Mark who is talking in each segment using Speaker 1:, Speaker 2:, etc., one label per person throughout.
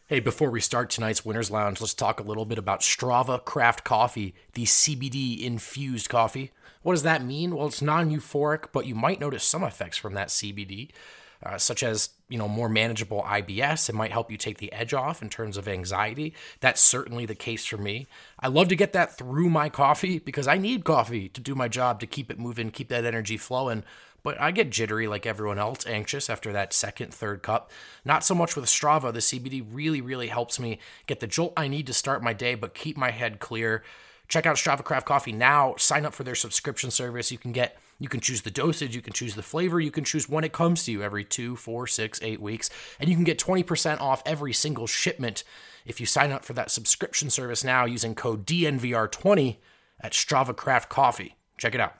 Speaker 1: Hey, before we start tonight's Winner's Lounge, let's talk a little bit about Strava Craft Coffee, the CBD-infused coffee. What does that mean? Well, it's non-euphoric, but you might notice some effects from that CBD, such as, more manageable IBS. It might help you take the edge off in terms of anxiety. That's certainly the case for me. I love to get that through my coffee because I need coffee to do my job, to keep it moving, keep that energy flowing. But I get jittery like everyone else, anxious after that second, third cup. Not so much with Strava. The CBD really, really helps me get the jolt I need to start my day, but keep my head clear. Check out Strava Craft Coffee now. Sign up for their subscription service. You can choose the dosage, you can choose the flavor, you can choose when it comes to you every 2, 4, 6, 8 weeks, and you can get 20% off every single shipment if you sign up for that subscription service now using code DNVR20 at Strava Craft Coffee. Check it out.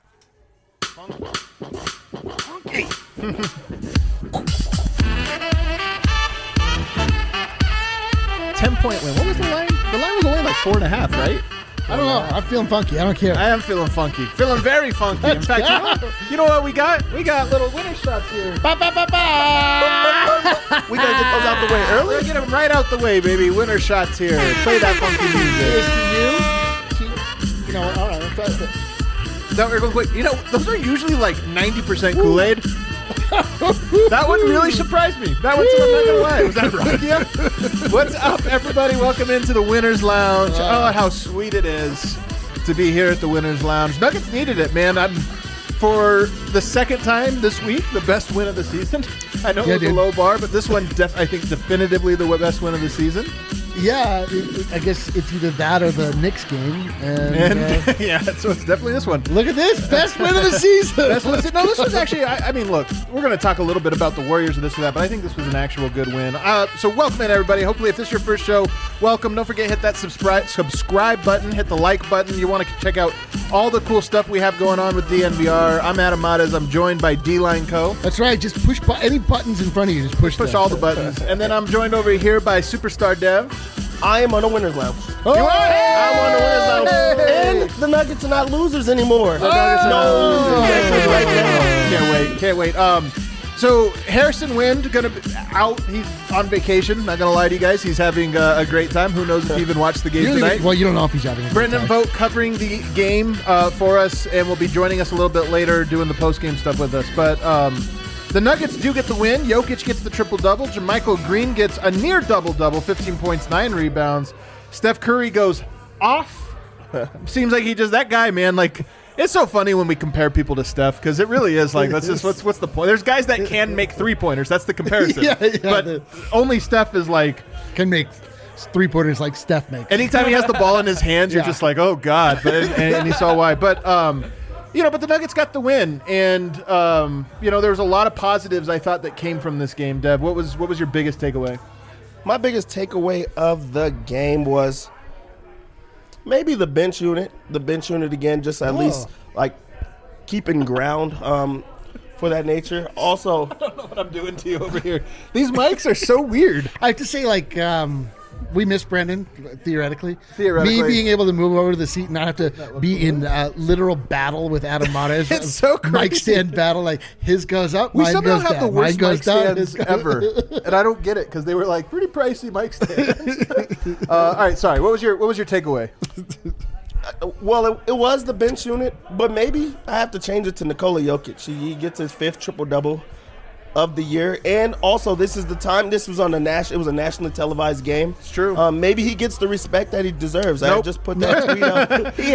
Speaker 2: Funky.
Speaker 3: 10-point win. What was the line? The line was only like 4.5, right?
Speaker 2: I don't know. I'm feeling funky. I don't care.
Speaker 3: I am feeling funky. Feeling very funky. In fact, you know what we got? We got little winner shots here.
Speaker 2: Ba, ba, ba, ba.
Speaker 4: We gotta get those out the way early.
Speaker 3: We'll get them right out the way, baby. Winner shots here. Play that funky music.
Speaker 2: All right. Let's try it.
Speaker 3: Those are usually like 90% Kool-Aid. That one really surprised me. That one's, I'm not gonna lie. Was that right? Yeah. What's up, everybody? Welcome into the Winner's Lounge. Oh, how sweet it is to be here at the Winner's Lounge. Nuggets needed it, man. For the second time this week, the best win of the season. I know it was a low bar, but this one, I think, definitively the best win of the season.
Speaker 2: Yeah, I guess it's either that or the Knicks game. And
Speaker 3: yeah, so it's definitely this one.
Speaker 2: Look at this. Best win of the season.
Speaker 3: No, this was actually, I mean, look, we're going to talk a little bit about the Warriors and this or that, but I think this was an actual good win. So welcome in, everybody. Hopefully, if this is your first show, welcome. Don't forget, hit that subscribe button, hit the like button. You want to check out all the cool stuff we have going on with DNVR. I'm Adam Matas. I'm joined by D-Line Co.
Speaker 2: That's right. Just push any buttons in front of you. Just push
Speaker 3: all the buttons. And then I'm joined over here by Superstar Dev.
Speaker 4: I am on the Winner's Lounge.
Speaker 3: Oh,
Speaker 4: I'm on the Winner's Lounge.
Speaker 3: Hey.
Speaker 4: And the Nuggets are not losers anymore.
Speaker 3: Can't wait. So Harrison Wind gonna be out. He's on vacation. Not gonna lie to you guys. He's having a great time. Who knows if he even watched the game tonight?
Speaker 2: Well, you don't know if he's having a
Speaker 3: Brendan Vogt covering the game for us, and will be joining us a little bit later, doing the post game stuff with us. But the Nuggets do get the win. Jokic gets the triple-double. JaMychal Green gets a near double-double, 15 points, 9 rebounds. Steph Curry goes off. Seems like he just, that guy, man, like, it's so funny when we compare people to Steph, because it really is like, that's just, what's the point? There's guys that can make three-pointers. That's the comparison. But only Steph is like,
Speaker 2: can make three-pointers like Steph makes.
Speaker 3: Anytime he has the ball in his hands, you're just like, oh, God. But, and you saw why. But, but the Nuggets got the win, and there was a lot of positives I thought that came from this game. Dev, what was your biggest takeaway?
Speaker 4: My biggest takeaway of the game was maybe the bench unit. The bench unit again, just at least like keeping ground for that nature. Also,
Speaker 3: I don't know what I'm doing to you over here. These mics are so weird.
Speaker 2: I have to say, we miss Brendan, theoretically. Me being able to move over to the seat and not have to be in literal battle with Adam Matas.
Speaker 3: It's so crazy.
Speaker 2: Mic stand battle. Like, his goes up,
Speaker 3: we
Speaker 2: mine
Speaker 3: somehow
Speaker 2: goes
Speaker 3: have
Speaker 2: down.
Speaker 3: the worst
Speaker 2: mine goes
Speaker 3: mic
Speaker 2: down.
Speaker 3: stands ever. And I don't get it, because they were like pretty pricey mic stands. All right, sorry. What was your takeaway?
Speaker 4: Well, it was the bench unit, but maybe I have to change it to Nikola Jokic. He gets his 5th triple-double of the year, and also this is the time. This was on it was a nationally televised game.
Speaker 3: It's true.
Speaker 4: Maybe he gets the respect that he deserves.
Speaker 3: Nope.
Speaker 4: I just put that tweet out. He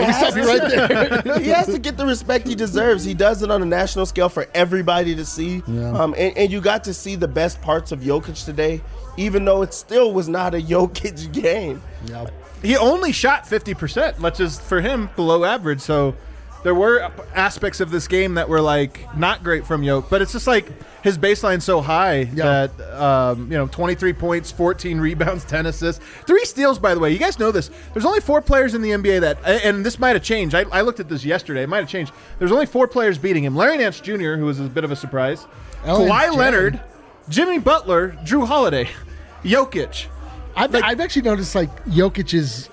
Speaker 4: has to get the respect he deserves. He does it on a national scale for everybody to see.
Speaker 2: Yeah.
Speaker 4: And you got to see the best parts of Jokic today, even though it still was not a Jokic game.
Speaker 2: Yep.
Speaker 3: He only shot 50%, which is for him below average. So there were aspects of this game that were like not great from Jokic, but it's just like his baseline's so high that 23 points, 14 rebounds, 10 assists, 3 steals. By the way, you guys know this. There's only 4 players in the NBA that, and this might have changed. I looked at this yesterday. It might have changed. There's only 4 players beating him: Larry Nance Jr., who was a bit of a surprise, Kawhi Leonard, Jimmy Butler, Drew Holiday, Jokic.
Speaker 2: I've actually noticed Jokic is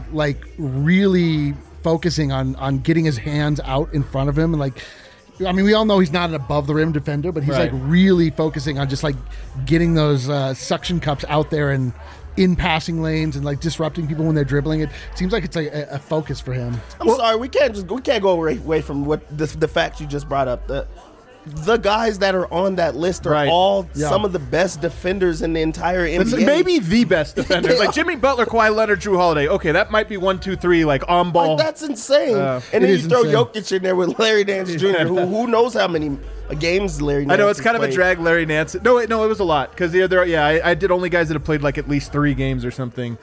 Speaker 2: really focusing on getting his hands out in front of him, and we all know he's not an above the rim defender, but he's really focusing on just getting those suction cups out there and in passing lanes and like disrupting people when they're dribbling. It seems like it's like a focus for him.
Speaker 4: I'm sorry, we can't go away from what the facts you just brought up. The guys that are on that list are all some of the best defenders in the entire NBA.
Speaker 3: Maybe the best defenders. Like Jimmy Butler, Kawhi Leonard, Drew Holiday. Okay, that might be 1, 2, 3, like on ball.
Speaker 4: Like, that's insane. And then you throw Jokic in there with Larry Nance Jr., who knows how many games Larry Nance
Speaker 3: I know, it's kind
Speaker 4: played.
Speaker 3: of a drag, Larry Nance. No, it was a lot. Because I did only guys that have played like at least 3 games or something.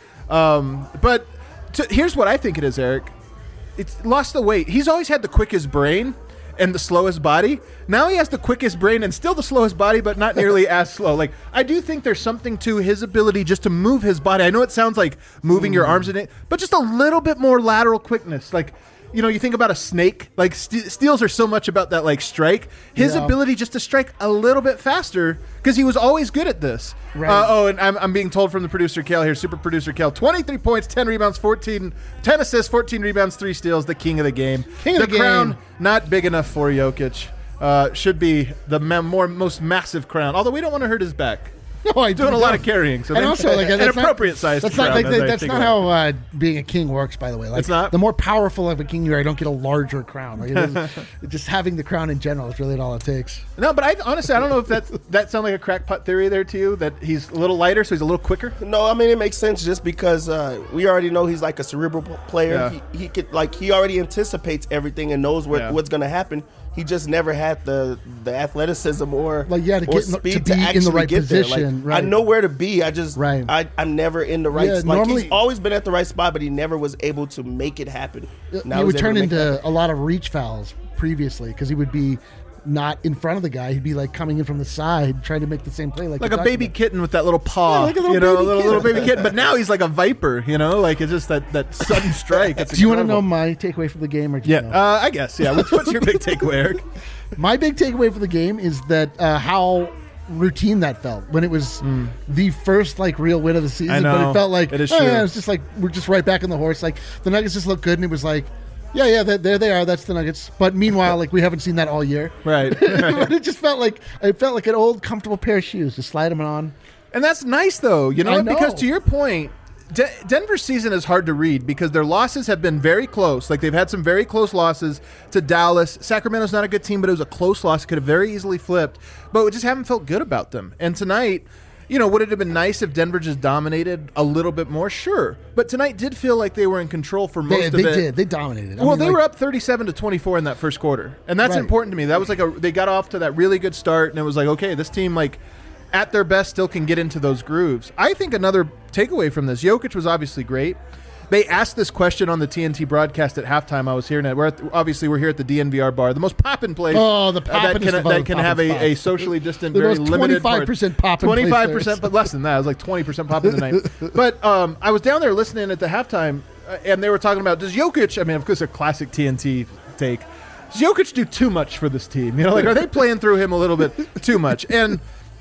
Speaker 3: But here's what I think it is, Eric. It's lost the weight. He's always had the quickest brain and the slowest body. Now he has the quickest brain and still the slowest body, but not nearly as slow. Like, I do think there's something to his ability just to move his body. I know it sounds like moving your arms in it, but just a little bit more lateral quickness. Like, you think about a snake. Like, steals are so much about that, like, strike. His ability just to strike a little bit faster, because he was always good at this.
Speaker 2: Right.
Speaker 3: And I'm being told from the producer Cal here, super producer Cal, 23 points, 10 rebounds, 10 assists, 14 rebounds, 3 steals, the king of the game. The crown, not big enough for Jokic. Should be the most massive crown, although we don't want to hurt his back.
Speaker 2: No, I
Speaker 3: doing a lot of carrying, so
Speaker 2: and also like
Speaker 3: an appropriate size.
Speaker 2: That's not like that's not how being a king works. By the way, like,
Speaker 3: it's not.
Speaker 2: The more powerful of a king you are, I don't get a larger crown. Like, just having the crown in general is really all it takes.
Speaker 3: No, but honestly, I don't know if that sounds like a crackpot theory there to you, that he's a little lighter, so he's a little quicker.
Speaker 4: No, I mean it makes sense just because we already know he's like a cerebral player.
Speaker 3: Yeah.
Speaker 4: He could he already anticipates everything and knows what's going to happen. He just never had the athleticism or
Speaker 2: to get
Speaker 4: speed
Speaker 2: to be in the right
Speaker 4: get
Speaker 2: position.
Speaker 4: Like, I know where to be. I just I'm never in the right.
Speaker 2: Yeah,
Speaker 4: like,
Speaker 2: normally
Speaker 4: he's always been at the right spot, but he never was able to make it happen. Now
Speaker 2: he would turn into a lot of reach fouls previously because he would be not in front of the guy. He'd be like coming in from the side trying to make the same play, like
Speaker 3: a baby kitten with that little paw.
Speaker 2: Yeah, like a little
Speaker 3: baby kitten. But now he's like a viper. Like it's just that sudden strike.
Speaker 2: Do you want to know my takeaway from the game, or do you know?
Speaker 3: I guess. Yeah. What's your big takeaway, Eric?
Speaker 2: My big takeaway for the game is that how routine that felt when it was the first like real win of the season.
Speaker 3: I know.
Speaker 2: But it felt like
Speaker 3: it is true.
Speaker 2: It's just like we're just right back on the horse. Like the Nuggets just looked good, and it was like, there they are. That's the Nuggets. But meanwhile, like we haven't seen that all year.
Speaker 3: Right.
Speaker 2: But it just felt like an old comfortable pair of shoes. Just slide them on.
Speaker 3: And that's nice though,
Speaker 2: I know.
Speaker 3: because to your point, Denver's season is hard to read because their losses have been very close. Like they've had some very close losses to Dallas. Sacramento's not a good team, but it was a close loss. It could have very easily flipped, but we just haven't felt good about them. And tonight, would it have been nice if Denver just dominated a little bit more? Sure. But tonight did feel like they were in control for most of it.
Speaker 2: They did. They dominated.
Speaker 3: They were up 37-24 in that first quarter. And that's important to me. That was like they got off to that really good start, and it was like, okay, this team, like, at their best, still can get into those grooves. I think another takeaway from this, Jokic was obviously great. They asked this question on the TNT broadcast at halftime. I was hearing it. We're here at the DNVR bar, the most poppin' place.
Speaker 2: Oh, the poppin'est
Speaker 3: that can have a socially distant,
Speaker 2: the
Speaker 3: very
Speaker 2: most
Speaker 3: limited
Speaker 2: 25% poppin'.
Speaker 3: 25%, but less than that. It was like 20% poppin' tonight. But I was down there listening at the halftime, and they were talking about, does Jokic, I mean, of course, a classic TNT take, does Jokic do too much for this team? Are they playing through him a little bit too much? And,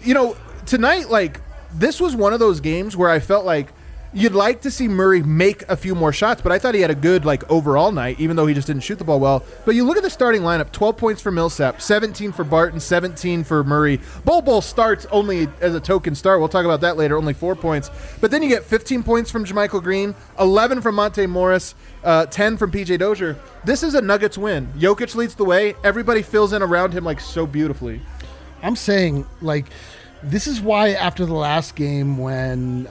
Speaker 3: tonight, like, this was one of those games where I felt like you'd like to see Murray make a few more shots, but I thought he had a good, like, overall night, even though he just didn't shoot the ball well. But you look at the starting lineup, 12 points for Millsap, 17 for Barton, 17 for Murray. Bol starts only as a token start. We'll talk about that later, only 4 points. But then you get 15 points from JaMychal Green, 11 from Monte Morris, 10 from PJ Dozier. This is a Nuggets win. Jokic leads the way. Everybody fills in around him, like, so beautifully.
Speaker 2: I'm saying, like, this is why after the last game when,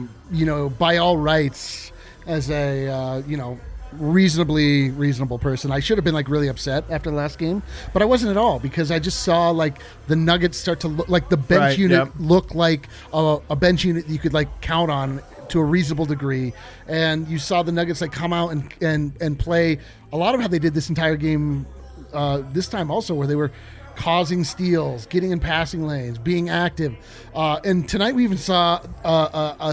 Speaker 2: by all rights, as a, reasonably reasonable person, I should have been, like, really upset after the last game. But I wasn't at all, because I just saw, like, the Nuggets start to look like the bench unit look like a bench unit you could, like, count on to a reasonable degree. And you saw the Nuggets, like, come out and play a lot of how they did this entire game this time also, where they were causing steals, getting in passing lanes, being active. And tonight we even saw a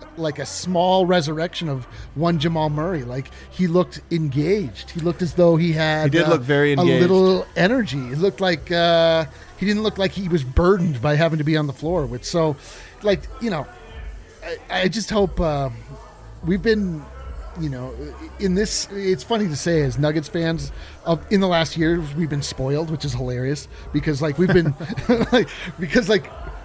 Speaker 2: small resurrection of one Jamal Murray. Like, he looked engaged. He looked as though he had
Speaker 3: did look very engaged.
Speaker 2: A little energy. It looked like he didn't look like he was burdened by having to be on the floor. I just hope we've been, in this, it's funny to say as Nuggets fans, in the last year we've been spoiled, which is hilarious because, like, we've been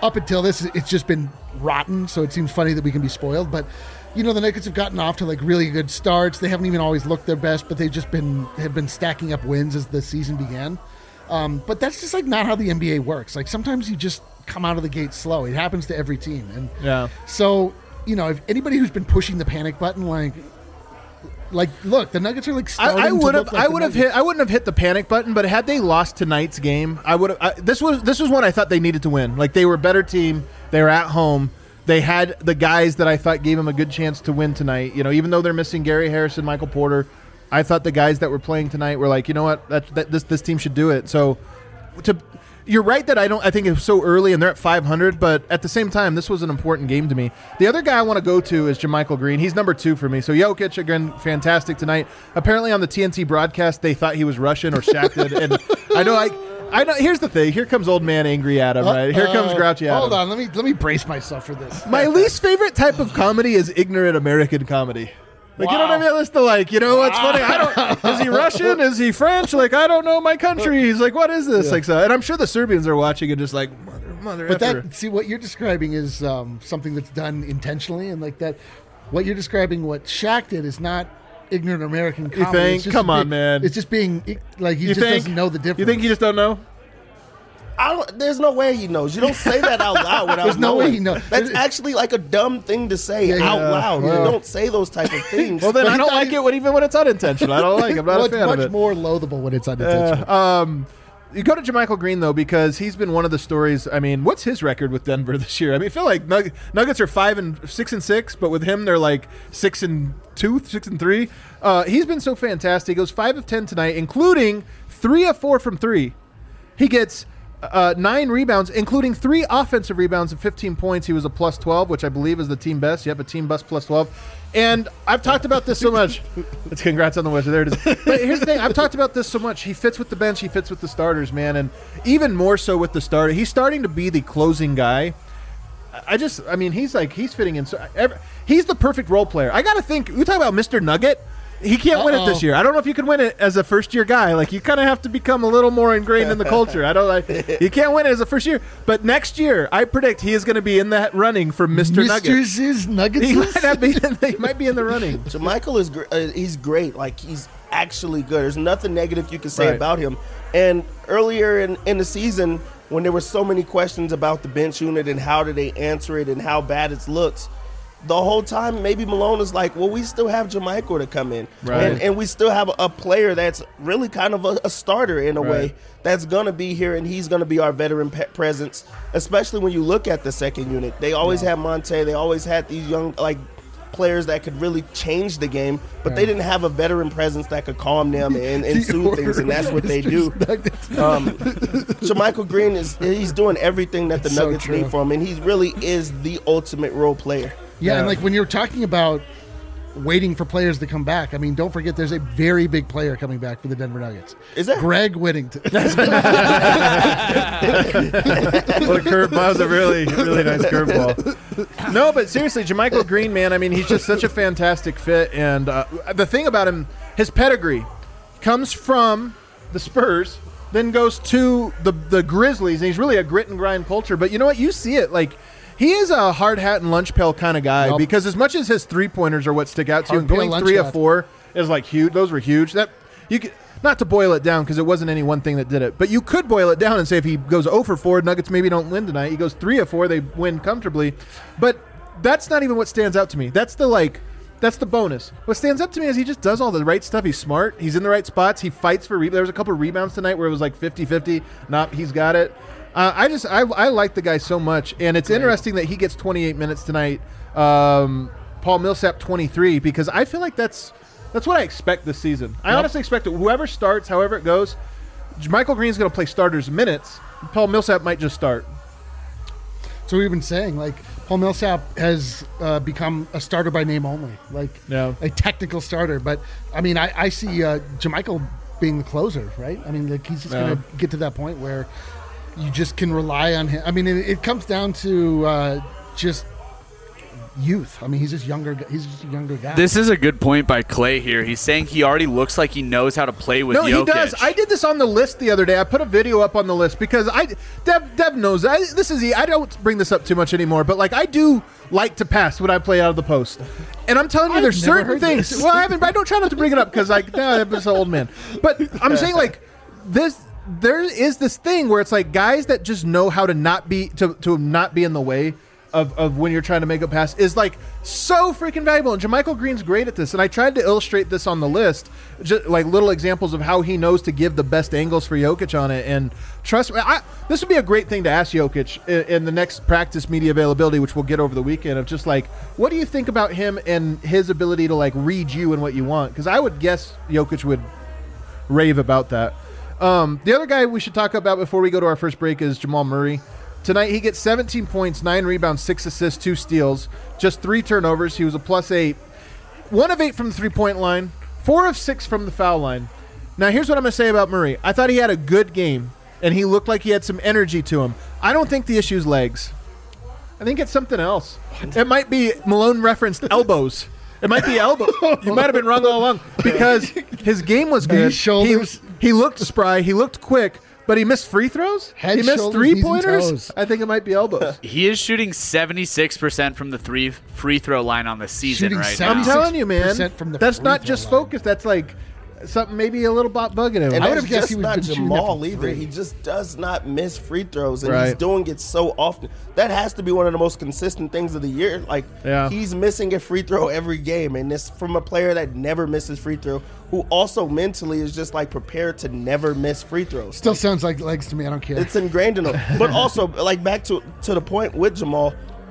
Speaker 2: up until this, it's just been rotten. So it seems funny that we can be spoiled. But the Nuggets have gotten off to like really good starts. They haven't even always looked their best, but they've just have been stacking up wins as the season began. But that's just like not how the NBA works. Like sometimes you just come out of the gate slow. It happens to every team. And so, if anybody who's been pushing the panic button, like look, the Nuggets are like starting
Speaker 3: I would
Speaker 2: to
Speaker 3: have
Speaker 2: look like
Speaker 3: I wouldn't have hit the panic button, but had they lost tonight's game, I would have. This was one I thought they needed to win. Like they were a better team. They were at home. They had the guys that I thought gave them a good chance to win tonight. Even though they're missing Gary Harrison, Michael Porter, I thought the guys that were playing tonight were like, you know what, this team should do it. So, you're right that I think it was so early and they're at 500, but at the same time, this was an important game to me. The other guy I want to go to is JaMychal Green. He's number 2 for me. So Jokic again, fantastic tonight. Apparently on the TNT broadcast, they thought he was Russian or Shaq did, and I know. Here's the thing. Here comes old man angry Adam. Right here comes grouchy Adam.
Speaker 2: Hold on, let me brace myself for this.
Speaker 3: My least favorite type of comedy is ignorant American comedy. Like, you know what I mean? That's the what's funny? Is he Russian? Is he French? Like, I don't know my country. He's like, what is this? Yeah. Like, so, and I'm sure the Serbians are watching and just like, mother.
Speaker 2: But see, what you're describing is something that's done intentionally, and like that, what you're describing, what Shaq did is not ignorant American comedy.
Speaker 3: You think? Come on, man.
Speaker 2: It's just being like he just doesn't know the difference.
Speaker 3: You think he just don't know?
Speaker 4: There's no way he knows. You don't say that out loud without
Speaker 2: There's no way he knows.
Speaker 4: That's actually like a dumb thing to say out loud. You don't say those type of things.
Speaker 3: Well, then I don't like it even when it's unintentional. I don't like it. I'm not a fan of it.
Speaker 2: It's much more loathable when it's unintentional.
Speaker 3: You go to JaMychal Green, though, because he's been one of the stories. I mean, what's his record with Denver this year? I mean, I feel like Nuggets are 5-6-6, but with him, they're like 6-2, 6-3. He's been so fantastic. He goes 5 of 10 tonight, including 3 of 4 from 3. He gets 9 rebounds, including 3 offensive rebounds and 15 points. He was a plus 12, which I believe is the team best. Yep, a team best plus 12. And I've talked about this so much. It's congrats on the win. There it is. But here's the thing. I've talked about this so much. He fits with the bench. He fits with the starters, man. And even more so with the starter. He's starting to be the closing guy. He's fitting in. He's the perfect role player. I got to think. We talk about Mr. Nugget. He can't win it this year. I don't know if you can win it as a first-year guy. Like, you kind of have to become a little more ingrained in the culture. You can't win it as a first year. But next year, I predict he is going to be in that running for Mr. Nugget.
Speaker 2: Mr. Nuggets?
Speaker 3: He might be in the running.
Speaker 4: JaMychal is he's great. Like, he's actually good. There's nothing negative you can say about him. And earlier in the season, when there were so many questions about the bench unit and how did they answer it and how bad it looks, the whole time, maybe Malone is like, well, we still have JaMychal to come in.
Speaker 3: Right.
Speaker 4: And we still have a player that's really kind of a starter in a way that's going to be here, and he's going to be our veteran presence, especially when you look at the second unit. They always had Monte. They always had these young players that could really change the game, but they didn't have a veteran presence that could calm them and soothe things, and that's what they do. JaMychal Green, he's doing everything that the Nuggets need from him, and he really is the ultimate role player.
Speaker 2: Yeah, and when you're talking about waiting for players to come back, I mean, don't forget there's a very big player coming back for the Denver Nuggets.
Speaker 4: Is that
Speaker 2: Greg Whittington?
Speaker 3: What a curveball. That was a really, really nice curveball. No, but seriously, JaMychal Green, man, I mean, he's just such a fantastic fit. And the thing about him, his pedigree comes from the Spurs, then goes to the Grizzlies, and he's really a grit and grind culture. But you know what? You see it, he is a hard hat and lunch pail kind of guy because as much as his 3-pointers are what stick out to you, and going 3 of 4 is huge. Those were huge. That you could, not to boil it down because it wasn't any one thing that did it, but you could boil it down and say if he goes 0 for 4, Nuggets maybe don't win tonight. He goes 3 of 4, they win comfortably. But that's not even what stands out to me. That's the bonus. What stands up to me is he just does all the right stuff. He's smart. He's in the right spots. He fights for there was a couple of rebounds tonight where it was 50-50. He's got it. I like the guy so much, and it's interesting that he gets 28 minutes tonight. Paul Millsap 23, because I feel like that's what I expect this season. I honestly expect it. Whoever starts, however it goes, JaMychal Green's going to play starters minutes. Paul Millsap might just start.
Speaker 2: So we've been saying Paul Millsap has become a starter by name only, a technical starter. But I mean, I see JaMychal being the closer, right? I mean, he's just going to get to that point where you just can rely on him. I mean, it comes down to just youth. I mean, he's just younger. He's just a younger guy.
Speaker 5: This is a good point by Clay here. He's saying he already looks like he knows how to play with Jokic.
Speaker 3: No, he does. I did this on the list the other day. I put a video up on the list because Dev knows. I don't bring this up too much anymore, but like I do like to pass when I play out of the post. And I'm telling you, there's certain things. Well, I haven't. But I don't try not to bring it up because I'm an old man. But I'm saying like this. There is this thing where it's like guys that just know how to not be in the way of when you're trying to make a pass is like so freaking valuable. And JaMychal Green's great at this. And I tried to illustrate this on the list, just like little examples of how he knows to give the best angles for Jokic on it. And trust me, this would be a great thing to ask Jokic in the next practice media availability, which we'll get over the weekend, of just like, what do you think about him and his ability to like read you and what you want? Because I would guess Jokic would rave about that. The other guy we should talk about before we go to our first break is Jamal Murray. Tonight, he gets 17 points, 9 rebounds, 6 assists, 2 steals, just 3 turnovers. He was a +8. 1 of 8 from the three-point line, 4 of 6 from the foul line. Now, here's what I'm going to say about Murray. I thought he had a good game, and he looked like he had some energy to him. I don't think the issue is legs. I think it's something else. It might be Malone referenced elbows. It might be elbow. You might have been wrong all along because his game was good.
Speaker 2: Shoulders.
Speaker 3: He looked spry. He looked quick. But he missed free throws?
Speaker 2: Head,
Speaker 3: he missed
Speaker 2: shoulders,
Speaker 3: three-pointers?
Speaker 2: knees, and toes.
Speaker 3: I think it might be elbows.
Speaker 5: He is shooting 76% from the free throw line on the season
Speaker 2: Shooting
Speaker 5: right
Speaker 2: 76%
Speaker 5: now.
Speaker 3: I'm telling you, man.
Speaker 2: from the
Speaker 3: That's
Speaker 2: free
Speaker 3: not
Speaker 2: throw
Speaker 3: just
Speaker 2: line.
Speaker 3: focus. That's like something maybe a little bugging him.
Speaker 4: And
Speaker 2: I would
Speaker 4: that's
Speaker 2: have guessed
Speaker 4: just
Speaker 2: he was
Speaker 4: not
Speaker 2: been shooting that
Speaker 4: Jamal
Speaker 2: from
Speaker 4: either.
Speaker 2: three.
Speaker 4: He just does not miss free throws, and
Speaker 3: Right.
Speaker 4: he's doing it so often. That has to be one of the most consistent things of the year. Like,
Speaker 3: Yeah.
Speaker 4: he's missing a free throw every game, and this from a player that never misses free throw, who also mentally is just like prepared to never miss free throws.
Speaker 2: Still sounds like legs to me. I don't care.
Speaker 4: It's ingrained in him. But also, like back to the point with Jamal,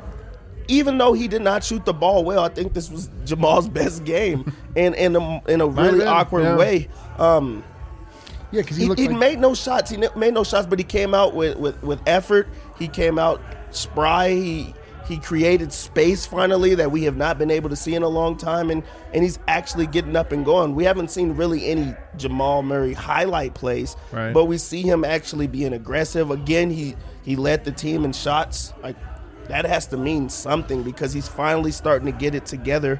Speaker 4: even though he did not shoot the ball well, I think this was Jamal's best game, and in a really
Speaker 3: been,
Speaker 4: awkward
Speaker 3: yeah.
Speaker 4: way.
Speaker 2: yeah, because
Speaker 4: He,
Speaker 2: looked
Speaker 4: he
Speaker 2: like
Speaker 4: made no shots. He made no shots, but he came out with effort. He came out spry. He created space finally that we have not been able to see in a long time, and he's actually getting up and going. We haven't seen really any Jamal Murray highlight plays,
Speaker 3: Right.
Speaker 4: but we see him actually being aggressive. Again, he led the team in shots. Like, that has to mean something because he's finally starting to get it together.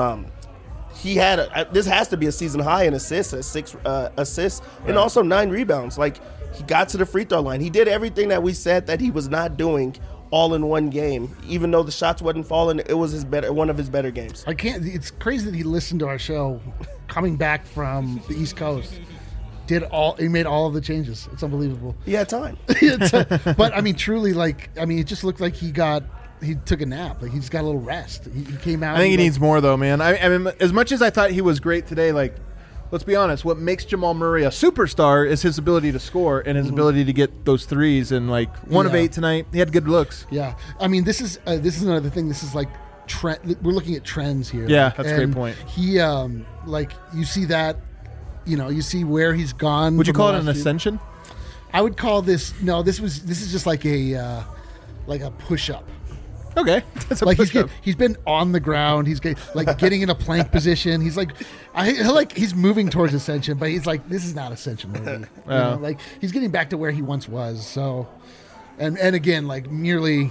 Speaker 4: He had this has to be a season high in assists, 6 assists, and also 9 rebounds. Like, he got to the free throw line. He did everything that we said that he was not doing all in one game. Even though the shots wasn't falling, it was one of his better games.
Speaker 2: I can't. It's crazy that he listened to our show, coming back from the East Coast. He made all of the changes. It's unbelievable.
Speaker 4: He had time.
Speaker 2: But I mean, truly, it just looked like he took a nap. Like, he just got a little rest. He came out.
Speaker 3: I think he
Speaker 2: like,
Speaker 3: needs more, though, man. I mean, as much as I thought he was great today, like, let's be honest, what makes Jamal Murray a superstar is his ability to score and his ability to get those threes. And, like, 1 of
Speaker 2: Yeah.
Speaker 3: 8 tonight. He had good looks.
Speaker 2: Yeah, I mean, this is another thing. This is like trend. We're looking at trends here.
Speaker 3: Yeah, that's a great
Speaker 2: And
Speaker 3: point.
Speaker 2: He, like, you see that, you see where he's gone.
Speaker 3: Would you
Speaker 2: from
Speaker 3: call
Speaker 2: the
Speaker 3: it an
Speaker 2: last few-
Speaker 3: ascension?
Speaker 2: I would call this. No, this is just like a push up.
Speaker 3: Okay. That's a
Speaker 2: Like
Speaker 3: push-up.
Speaker 2: he's been on the ground. He's getting in a plank position. He's like, he's moving towards ascension, but he's like, this is not ascension, maybe.
Speaker 3: Yeah.
Speaker 2: Like, he's getting back to where he once was. So, and again, like merely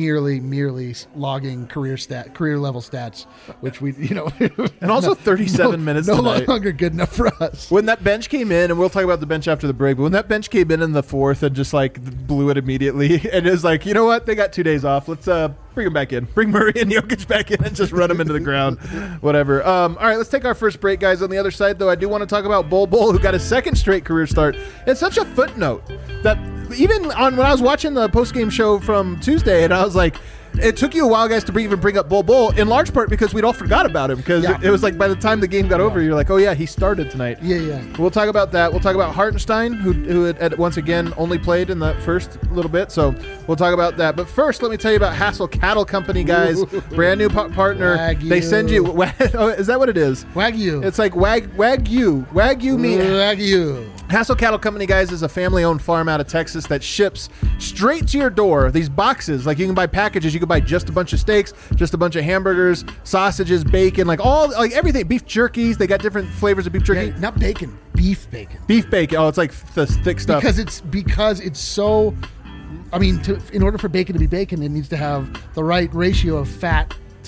Speaker 2: logging career level stats, which we
Speaker 3: And also 37 minutes
Speaker 2: no
Speaker 3: tonight.
Speaker 2: longer good enough for us.
Speaker 3: When that bench came in, and we'll talk about the bench after the break, but when that bench came in the fourth and just like blew it immediately, and it was like, you know what? They got 2 days off. Let's bring them back in. Bring Murray and Jokic back in and just run them into the ground. Whatever. All right, let's take our first break, guys. On the other side, though, I do want to talk about Bol Bol, who got his 2nd straight career start. It's such a footnote that even when I was watching the post-game show from Tuesday, and I was like, it took you a while, guys, to even bring up Bol Bol, in large part because we'd all forgot about him. Because
Speaker 2: Yeah.
Speaker 3: it was like by the time the game got over, you're like, oh, yeah, he started tonight.
Speaker 2: Yeah.
Speaker 3: We'll talk about that. We'll talk about Hartenstein, who had once again only played in the first little bit. So we'll talk about that. But first, let me tell you about Hassel Cattle Company, guys. Brand new partner.
Speaker 2: Wagyu.
Speaker 3: They send you. Oh, is that what it is?
Speaker 2: Wagyu.
Speaker 3: It's like Wagyu meat.
Speaker 2: Wagyu.
Speaker 3: Hassel Cattle Company, guys, is a family-owned farm out of Texas that ships straight to your door. These boxes, like you can buy packages. You can buy just a bunch of steaks, just a bunch of hamburgers, sausages, bacon, like everything. Beef jerkies. They got different flavors of beef jerky.
Speaker 2: Yeah, not bacon, beef bacon.
Speaker 3: Beef bacon. Oh, it's like the thick stuff.
Speaker 2: Because it's so. I mean, in order for bacon to be bacon, it needs to have the right ratio of fat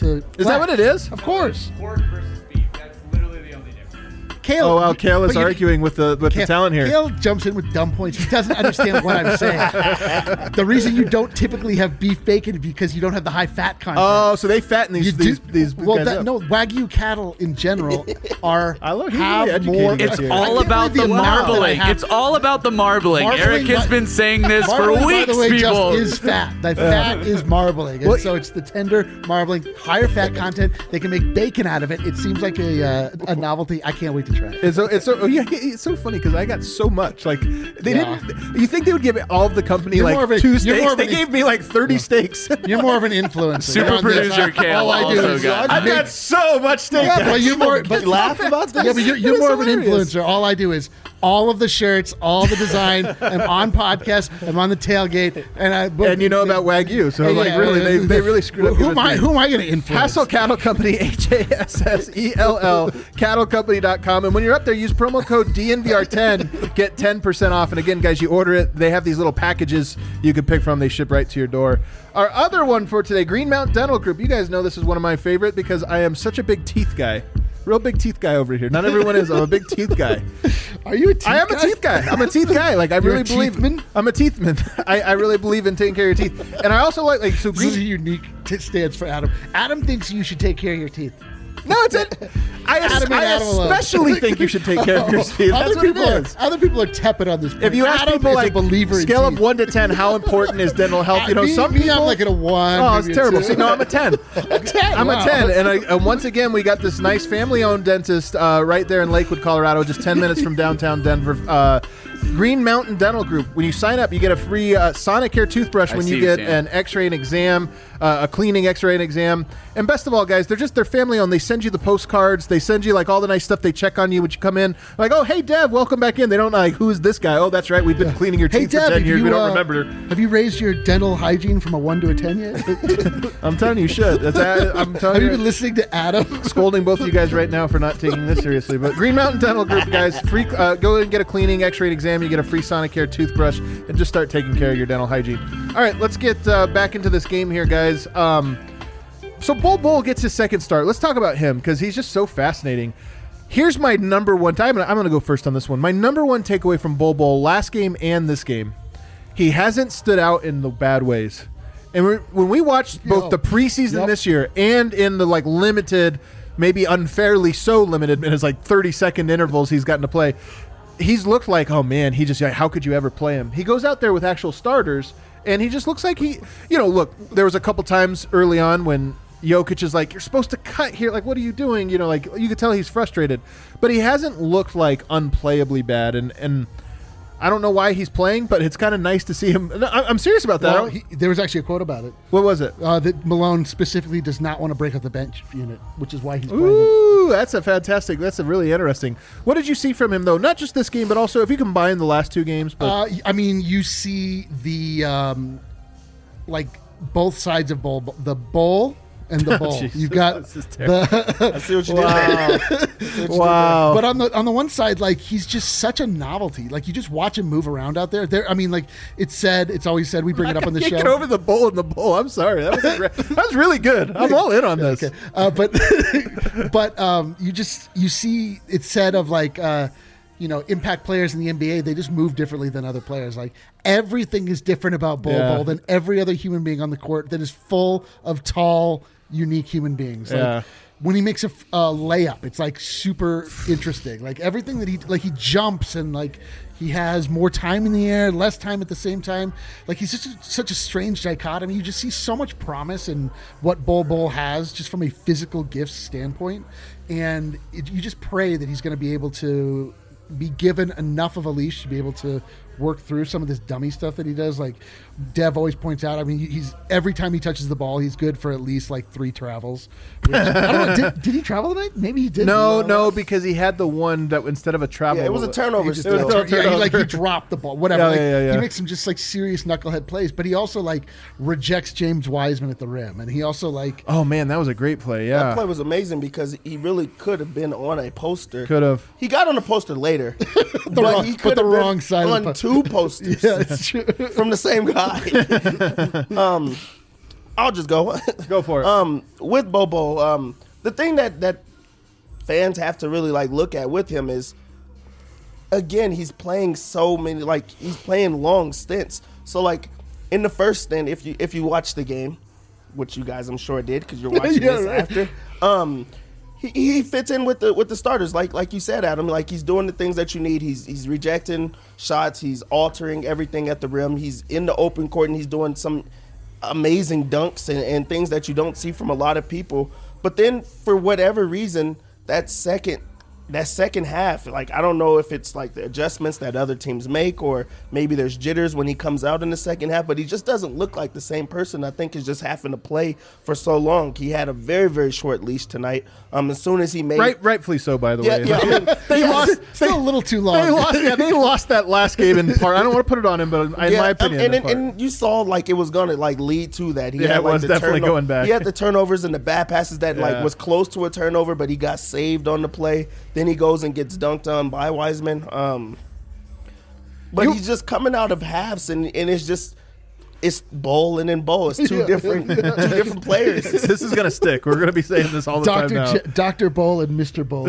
Speaker 2: to.
Speaker 3: Is that what it is?
Speaker 2: Of course.
Speaker 5: Pork versus beef. That's literally the only difference.
Speaker 2: Kale.
Speaker 3: Oh wow, Kale is
Speaker 2: but you-
Speaker 3: arguing with the talent here.
Speaker 2: Kale jumps in with dumb points. He doesn't understand what I'm saying. The reason you don't typically have beef bacon is because you don't have the high fat content.
Speaker 3: Oh, so they fatten
Speaker 2: You
Speaker 3: these
Speaker 2: do-
Speaker 3: these
Speaker 2: well,
Speaker 3: guys up.
Speaker 2: no, Wagyu cattle in general are
Speaker 3: I love- he's
Speaker 2: have
Speaker 3: really
Speaker 2: more.
Speaker 3: educating us
Speaker 5: It's
Speaker 3: here.
Speaker 2: I
Speaker 5: all
Speaker 2: can't
Speaker 5: about
Speaker 2: believe
Speaker 5: the
Speaker 2: amount that I
Speaker 5: marbling.
Speaker 2: have.
Speaker 5: It's all about the marbling.
Speaker 2: Marbling,
Speaker 5: Eric has been saying this for
Speaker 2: Marbling,
Speaker 5: weeks,
Speaker 2: by the way,
Speaker 5: people.
Speaker 2: just is fat. The fat is marbling, and
Speaker 3: Well,
Speaker 2: so it's the tender marbling, higher fat content. They can make bacon out of it. It seems like a novelty. I can't wait to try it.
Speaker 3: It's so funny because I got so much. Like they
Speaker 2: Yeah.
Speaker 3: didn't. You think they would give all of the company
Speaker 2: You're
Speaker 3: like
Speaker 2: more of a-
Speaker 3: 2
Speaker 2: you're
Speaker 3: steaks?
Speaker 2: more of
Speaker 3: They
Speaker 2: an-
Speaker 3: gave me like 30 steaks.
Speaker 2: You're more of an influencer.
Speaker 5: Super
Speaker 2: You're on this.
Speaker 5: producer Kale
Speaker 2: All I do
Speaker 5: also
Speaker 2: is
Speaker 5: got
Speaker 3: I
Speaker 2: make-
Speaker 3: got so much steak.
Speaker 2: Yeah, but you're more. But
Speaker 4: You laugh about this?
Speaker 2: Yeah, but you're
Speaker 3: It is
Speaker 2: more of an
Speaker 3: hilarious.
Speaker 2: influencer. All I do is all of the shirts, all the design. I'm on podcasts. I'm on the tailgate,
Speaker 3: And you know about Wagyu, so
Speaker 2: Yeah,
Speaker 3: like really, they really screwed up.
Speaker 2: Who
Speaker 3: your
Speaker 2: am I?
Speaker 3: thing.
Speaker 2: Who am I going to influence?
Speaker 3: Hassel Cattle Company, HASSELL, cattlecompany.com. And when you're up there, use promo code DNVR10, get 10% off. And again, guys, you order it. They have these little packages you can pick from. They ship right to your door. Our other one for today, Green Mountain Dental Group. You guys know this is one of my favorite because I am such a big teeth guy. Real big teeth guy over here. Not everyone is. I'm a big teeth guy.
Speaker 2: Are you a teeth
Speaker 3: I am a teeth guy. I'm a teeth guy. Like I
Speaker 2: You're
Speaker 3: really
Speaker 2: a
Speaker 3: believe.
Speaker 2: teethman?
Speaker 3: I'm a teethman. I really believe in taking care of your teeth. And I also like so
Speaker 2: This is a
Speaker 3: green.
Speaker 2: unique stance for Adam. Adam thinks you should take care of your teeth.
Speaker 3: No, it's it. I
Speaker 2: Adam and Adam alone.
Speaker 3: especially think you should take care of your teeth. That's
Speaker 2: Other
Speaker 3: what it
Speaker 2: people,
Speaker 3: is.
Speaker 2: other people are tepid on this. Point.
Speaker 3: If you ask
Speaker 2: Adam
Speaker 3: people
Speaker 2: is
Speaker 3: like
Speaker 2: a believer in
Speaker 3: scale of
Speaker 2: teeth.
Speaker 3: 1 to 10, how important is dental health? You know,
Speaker 2: me,
Speaker 3: some
Speaker 2: me,
Speaker 3: people.
Speaker 2: I'm like at a 1.
Speaker 3: Oh, it's
Speaker 2: maybe a
Speaker 3: terrible.
Speaker 2: 2.
Speaker 3: See, no, I'm a 10.
Speaker 2: A 10.
Speaker 3: I'm
Speaker 2: wow.
Speaker 3: a 10. And once again, we got this nice family-owned dentist right there in Lakewood, Colorado, just 10 minutes from downtown Denver. Green Mountain Dental Group. When you sign up, you get a free Sonicare toothbrush when you get an x-ray and exam, a cleaning x-ray and exam. And best of all, guys, they're family-owned. They send you the postcards. They send you like all the nice stuff. They check on you when you come in. Like, oh, hey, Dev, welcome back in. They don't know, like, who is this guy? Oh, that's right. We've been cleaning your
Speaker 2: Hey,
Speaker 3: teeth
Speaker 2: Deb,
Speaker 3: for 10
Speaker 2: have
Speaker 3: years.
Speaker 2: you,
Speaker 3: We don't remember.
Speaker 2: Have you raised your dental hygiene from a 1 to a 10 yet?
Speaker 3: I'm telling you, you should. I'm telling
Speaker 2: Have you
Speaker 3: you.
Speaker 2: been listening to Adam?
Speaker 3: Scolding both of you guys right now for not taking this seriously. But Green Mountain Dental Group, guys, free. Go and get a cleaning, x-ray, and exam. You get a free Sonicare toothbrush, and just start taking care of your dental hygiene. All right, let's get back into this game here, guys. So Bol gets his second start. Let's talk about him because he's just so fascinating. Here's my number one. I'm going to go first on this one. My number one takeaway from Bol last game and this game, he hasn't stood out in the bad ways. And when we watched both the preseason this year and in the like limited, maybe unfairly so limited, in his like 30-second intervals he's gotten to play, he's looked like, oh man, how could you ever play him? He goes out there with actual starters, and he just looks like look, there was a couple times early on when Jokic is like, you're supposed to cut here. Like, what are you doing? You know, like you could tell he's frustrated, but he hasn't looked like unplayably bad. And I don't know why he's playing, but it's kind of nice to see him. I'm serious about that.
Speaker 2: Well, there was actually a quote about it.
Speaker 3: What was it?
Speaker 2: That Malone specifically does not want to break up the bench unit, which is why he's playing.
Speaker 3: Ooh, that's a really interesting. What did you see from him, though? Not just this game, but also if you combine the last two games. But
Speaker 2: I mean, you see the like both sides of Bol, the Bol and the Bol.
Speaker 3: Jesus,
Speaker 2: You've got
Speaker 3: this is terrible.
Speaker 2: the
Speaker 4: I see what you did there.
Speaker 3: Wow.
Speaker 2: But on the one side, like he's just such a novelty. Like you just watch him move around out there. I mean, like it's always said. We bring it up on the show.
Speaker 3: Get over the Bull and the Bull. I'm sorry. That was really good. I'm all in on this.
Speaker 2: Okay. But you see it said of like impact players in the NBA, they just move differently than other players. Like everything is different about Bol than every other human being on the court that is full of tall, unique human beings. Like, when he makes a layup, it's like super interesting. Like everything that he jumps and like he has more time in the air, less time at the same time. Like he's just such a strange dichotomy. You just see so much promise in what Bol has just from a physical gifts standpoint. And you just pray that he's going to be able to be given enough of a leash to be able to work through some of this dummy stuff that he does. Like Dev always points out, I mean, he's every time he touches the ball, he's good for at least like 3 travels. Which, I don't know, did he travel tonight? Maybe he did.
Speaker 3: No, because he had the one that instead of a travel.
Speaker 4: Yeah, it was a turnover.
Speaker 2: He just
Speaker 4: still.
Speaker 2: he dropped the ball, whatever.
Speaker 3: Yeah.
Speaker 2: He makes some just like serious knucklehead plays, but he also like rejects James Wiseman at the rim, and he also like.
Speaker 3: Oh man, that was a great play. Yeah,
Speaker 4: That play was amazing because he really could have been on a poster.
Speaker 3: Could have.
Speaker 4: He got on a poster later,
Speaker 2: wrong-
Speaker 4: he
Speaker 2: but
Speaker 4: could
Speaker 2: the
Speaker 4: have been
Speaker 2: wrong side of the
Speaker 4: on 2 posters
Speaker 2: Yeah, it's true.
Speaker 4: from the same guy. I'll just go.
Speaker 3: Go for it.
Speaker 4: With Bobo, the thing that fans have to really like look at with him is, again, he's playing so many, like he's playing long stints. So like in the first stint, if you watch the game, which you guys I'm sure did because you're watching this after, he fits in with the starters, like you said, Adam. Like he's doing the things that you need. He's rejecting shots. He's altering everything at the rim. He's in the open court and he's doing some amazing dunks and things that you don't see from a lot of people. But then for whatever reason, that second half, like I don't know if it's like the adjustments that other teams make or maybe there's jitters when he comes out in the second half, but he just doesn't look like the same person. I think is just having to play for so long. He had a very, very short leash tonight. As soon as he made
Speaker 3: Rightfully so, by the way.
Speaker 4: Yeah, I mean,
Speaker 3: They lost.
Speaker 2: Still a little too long.
Speaker 3: They lost that last game in part. I don't want to put it on him, but in my opinion,
Speaker 4: and you saw like it was gonna like lead to that. He
Speaker 3: Yeah,
Speaker 4: had,
Speaker 3: it
Speaker 4: like,
Speaker 3: was
Speaker 4: the
Speaker 3: definitely going back.
Speaker 4: He had the turnovers and the bad passes that
Speaker 3: Yeah.
Speaker 4: like was close to a turnover, but he got saved on the play. Then he goes and gets dunked on by Wiseman. But he's just coming out of halves, and it's just it's Bowl and then Bowl. It's two different players.
Speaker 3: this is gonna stick. We're gonna be saying this all the time now.
Speaker 2: Dr. Bowl and Mr. Bowl.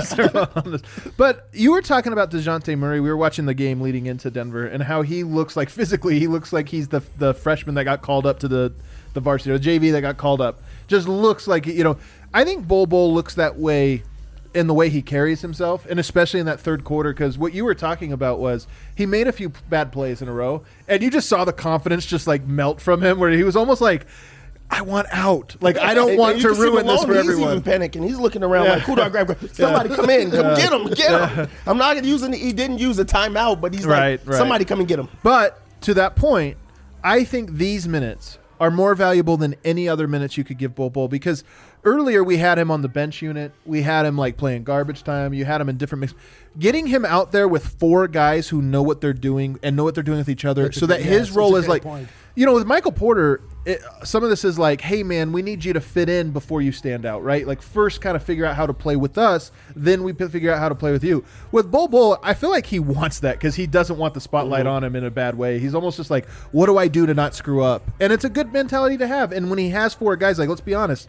Speaker 3: But you were talking about DeJounte Murray. We were watching the game leading into Denver and how he looks like physically. He looks like he's the freshman that got called up to the varsity, or the JV that got called up. Just looks like, I think Bowl looks that way in the way he carries himself, and especially in that third quarter, because what you were talking about was he made a few bad plays in a row, and you just saw the confidence just like melt from him, where he was almost like, I want out. Like, I don't want to ruin this for everyone.
Speaker 4: He's even panicking. He's looking around like, who do I grab? Somebody come in. Come get him. I'm not using he didn't use a timeout, but he's like, somebody come and get him.
Speaker 3: But to that point, I think these minutes are more valuable than any other minutes you could give Bowl, because earlier we had him on the bench unit. We had him like playing garbage time. You had him in different mix. Getting him out there with four guys who know what they're doing and know what they're doing with each other, so that his role is like, with Michael Porter, some of this is like, hey man, we need you to fit in before you stand out, right? Like first kind of figure out how to play with us, then we figure out how to play with you. With Bowl, I feel like he wants that because he doesn't want the spotlight on him in a bad way. He's almost just like, what do I do to not screw up? And it's a good mentality to have. And when he has four guys, like, let's be honest,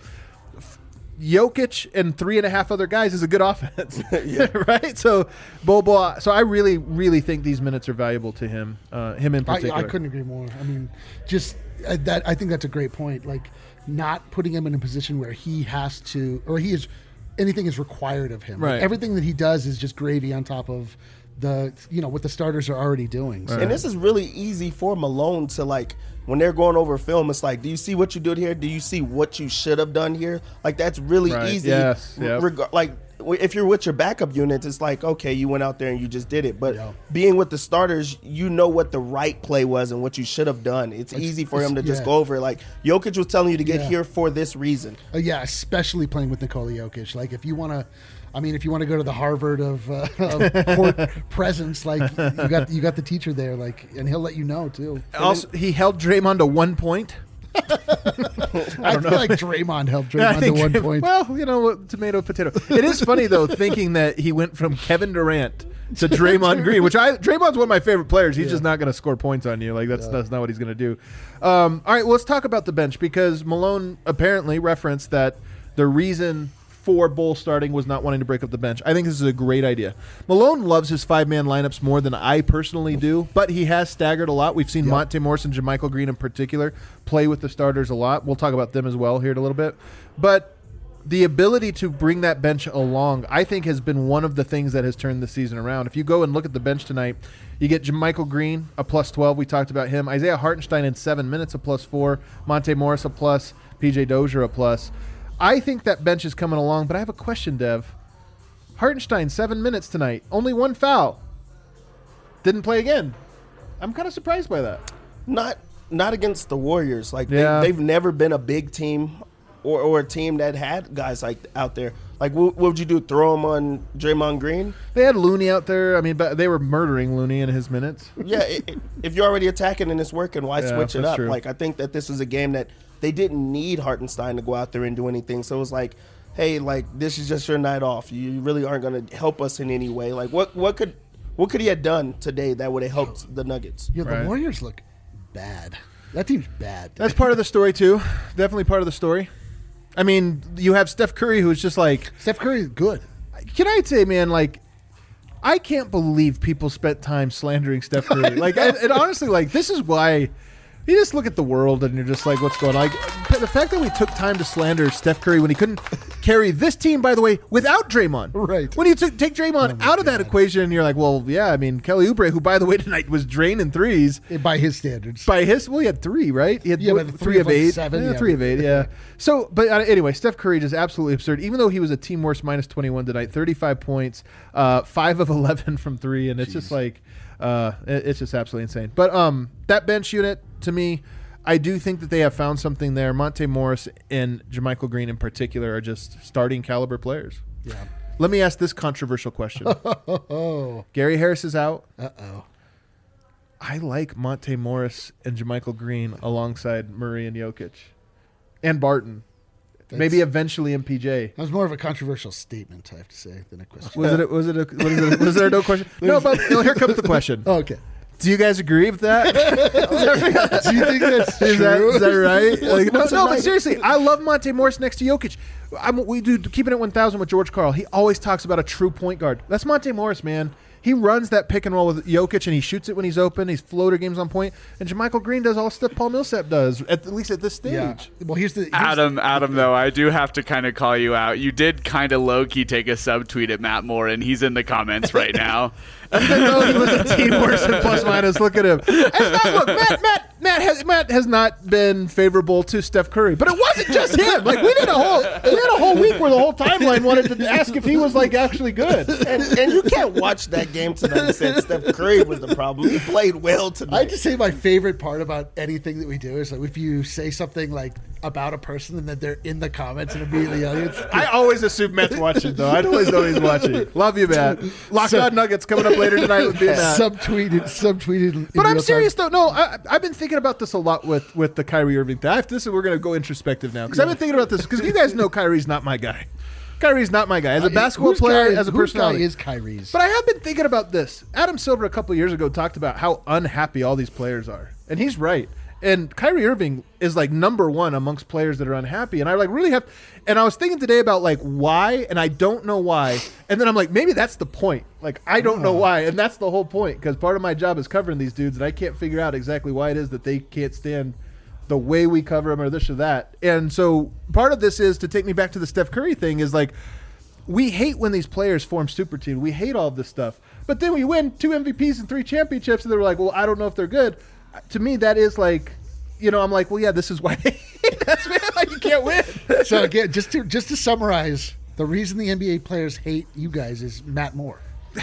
Speaker 3: Jokic and 3.5 other guys is a good offense, right? So Bowl. So I really, really think these minutes are valuable to him. Him in particular.
Speaker 2: I couldn't agree more. I mean, just that. I think that's a great point. Like, not putting him in a position where he has to, or anything is required of him.
Speaker 3: Right.
Speaker 2: Like, everything that he does is just gravy on top of what the starters are already doing. So.
Speaker 4: And this is really easy for Malone to like. When they're going over film, it's like, do you see what you did here? Do you see what you should have done here? Like, that's really easy.
Speaker 3: Yes. Yep.
Speaker 4: Like, if you're with your backup units, it's like, okay, you went out there and you just did it. But being with the starters, you know what the right play was and what you should have done. It's easy for him to just go over it. Like, Jokic was telling you to get here for this reason.
Speaker 2: Especially playing with Nikola Jokic. Like, if you want to... if you want to go to the Harvard of court presence, like you got the teacher there, like, and he'll let you know too.
Speaker 3: Also, he held Draymond to 1 point.
Speaker 2: I feel like Draymond held Draymond to 1 point.
Speaker 3: Well, tomato, potato. It is funny though, thinking that he went from Kevin Durant to Draymond Green, which Draymond's one of my favorite players. He's just not going to score points on you. Like that's not what he's going to do. All right, well, let's talk about the bench, because Malone apparently referenced that the reason for Bowl starting was not wanting to break up the bench. I think this is a great idea. Malone loves his 5-man lineups more than I personally do, but he has staggered a lot. We've seen Monte Morris and JaMychal Green in particular play with the starters a lot. We'll talk about them as well here in a little bit. But the ability to bring that bench along, I think, has been one of the things that has turned the season around. If you go and look at the bench tonight, you get JaMychal Green, a +12. We talked about him. Isaiah Hartenstein in 7 minutes, a +4. Monte Morris, a +. PJ Dozier, a +. I think that bench is coming along, but I have a question, Dev. Hartenstein, 7 minutes tonight. Only 1 foul. Didn't play again. I'm kind of surprised by that.
Speaker 4: Not against the Warriors. Like, they've never been a big team or a team that had guys like out there. Like, what would you do? Throw him on Draymond Green?
Speaker 3: They had Looney out there. I mean, but they were murdering Looney in his minutes.
Speaker 4: Yeah, if you're already attacking and it's working, why switch it up?
Speaker 3: True.
Speaker 4: Like, I think that this is a game that they didn't need Hartenstein to go out there and do anything. So it was like, hey, like, this is just your night off. You really aren't going to help us in any way. Like, what could he have done today that would have helped the Nuggets?
Speaker 2: Yeah, the Warriors look bad. That team's bad.
Speaker 3: That's part of the story too. Definitely part of the story. I mean, you have Steph Curry, who's just like
Speaker 2: Steph Curry is good.
Speaker 3: Can I say, man, like, I can't believe people spent time slandering Steph Curry. Like, and honestly, like, this is why you just look at the world and you're just like, what's going on? Like, the fact that we took time to slander Steph Curry when he couldn't carry this team, by the way, without Draymond.
Speaker 2: Right.
Speaker 3: When you take Draymond out of that equation, you're like, well, yeah, I mean, Kelly Oubre, who, by the way, tonight was draining threes.
Speaker 2: By his standards.
Speaker 3: Well, he had 3, right? He had
Speaker 2: but
Speaker 3: three of
Speaker 2: like
Speaker 3: 8.
Speaker 2: 7.
Speaker 3: Yeah, 3 of 8, yeah. So, but anyway, Steph Curry just absolutely absurd. Even though he was a team worst minus 21 tonight, 35 points, 5 of 11 from 3, and it's just like, it's just absolutely insane. But that bench unit, to me, I do think that they have found something there. Monte Morris and JaMychal Green in particular are just starting caliber players.
Speaker 2: Yeah.
Speaker 3: Let me ask this controversial question. Gary Harris is out.
Speaker 2: Uh-oh.
Speaker 3: I like Monte Morris and JaMychal Green alongside Murray and Jokic. And Barton. Maybe eventually MPJ.
Speaker 2: That was more of a controversial statement, I have to say, than a question.
Speaker 3: Was there no question? No, but here comes the question.
Speaker 2: Oh, okay.
Speaker 3: Do you guys agree with that?
Speaker 2: Do you think that's true?
Speaker 3: Is that right? Like, no, but seriously, I love Monte Morris next to Jokic. We do Keeping It 1,000 with George Karl. He always talks about a true point guard. That's Monte Morris, man. He runs that pick and roll with Jokic, and he shoots it when he's open. He's floater games on point. And JaMychal Green does all the stuff Paul Millsap does, at least at this stage.
Speaker 2: Yeah. Well, here's
Speaker 5: Adam, though, I do have to kind of call you out. You did kind of low-key take a subtweet at Matt Moore, and he's in the comments right now.
Speaker 3: No, he was a team worse than plus minus. Look at him. And look, Matt has not been favorable to Steph Curry, but it wasn't just him. Like we had a whole week where the whole timeline wanted to ask if he was like actually good.
Speaker 4: And you can't watch that game tonight and say Steph Curry was the problem. He played well tonight.
Speaker 2: I just say my favorite part about anything that we do is like if you say something like about a person and then they're in the comments and immediately
Speaker 3: I always assume Matt's watching though. I always know he's watching. Love you, Matt. Locked On Nuggets coming up later tonight with Matt.
Speaker 2: Subtweeted.
Speaker 3: But I'm serious though. No, I've been thinking about this a lot with the Kyrie Irving thing. We're going to go introspective now because I've been thinking about this because you guys know Kyrie's not my guy. Kyrie's not my guy as a basketball player, as a personality.
Speaker 2: Whose guy is Kyrie's?
Speaker 3: But I have been thinking about this. Adam Silver a couple of years ago talked about how unhappy all these players are, and he's right. And Kyrie Irving is like number one amongst players that are unhappy. And I like really have, and I was thinking today about like why, and I don't know why. And then I'm like, maybe that's the point. Like, I don't know why. And that's the whole point because part of my job is covering these dudes and I can't figure out exactly why it is that they can't stand the way we cover them or this or that. And so part of this is to take me back to the Steph Curry thing is like, we hate when these players form super teams. We hate all of this stuff. But then we win 2 MVPs and 3 championships and they're like, well, I don't know if they're good. To me, that is like, you know, I'm like, well, yeah, this is why that's like you can't win.
Speaker 2: So again, just to summarize, the reason the NBA players hate you guys is Matt Moore.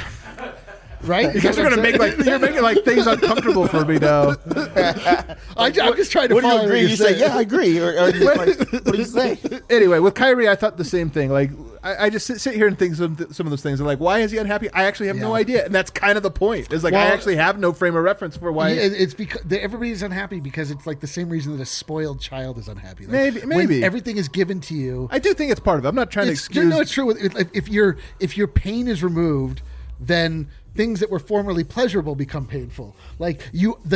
Speaker 2: Right?
Speaker 3: You guys are gonna you're making like things uncomfortable for me now.
Speaker 2: I'm just trying to.
Speaker 4: What do you
Speaker 2: follow
Speaker 4: agree? You say, yeah, I agree. Or you like, what do you say?
Speaker 3: Anyway, with Kyrie, I thought the same thing. Like, I just sit here and think some of those things. I'm like, why is he unhappy? I actually have no idea, and that's kind of the point. Is like I actually have no frame of reference for why.
Speaker 2: It's because everybody's unhappy because it's like the same reason that a spoiled child is unhappy. Like
Speaker 3: maybe
Speaker 2: when everything is given to you.
Speaker 3: I do think it's part of it. I'm not trying to excuse.
Speaker 2: No, it's true. If your pain is removed, then things that were formerly pleasurable become painful. Like what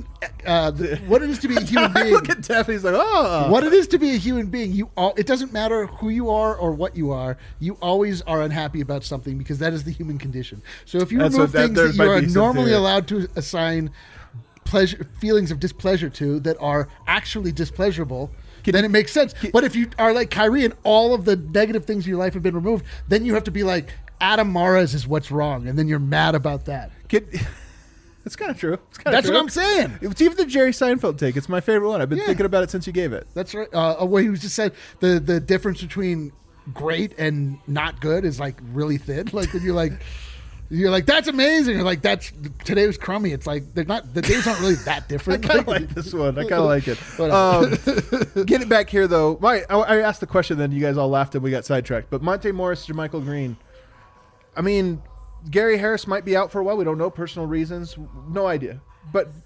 Speaker 2: it is to be a human being.
Speaker 3: Look at Jeff. He's like, oh.
Speaker 2: What it is to be a human being. It doesn't matter who you are or what you are. You always are unhappy about something because that is the human condition. So if you remove things that you are normally allowed to assign feelings of displeasure to that are actually displeasurable, then it makes sense. But if you are like Kyrie and all of the negative things in your life have been removed, then you have to be like, Adam Mares is what's wrong, and then you're mad about that.
Speaker 3: That's kind of true.
Speaker 2: That's what I'm saying.
Speaker 3: It's even the Jerry Seinfeld take. It's my favorite one. I've been thinking about it since you gave it.
Speaker 2: That's right. Where he was just said the difference between great and not good is like really thin. Like when you're like that's amazing. You're like today was crummy. It's like the days aren't really that different.
Speaker 3: I kind of like this one. I kind of like it. Get it back here though. I asked the question, then you guys all laughed and we got sidetracked. But Monte Morris, JaMychal Green. I mean, Gary Harris might be out for a while. We don't know personal reasons. No idea. But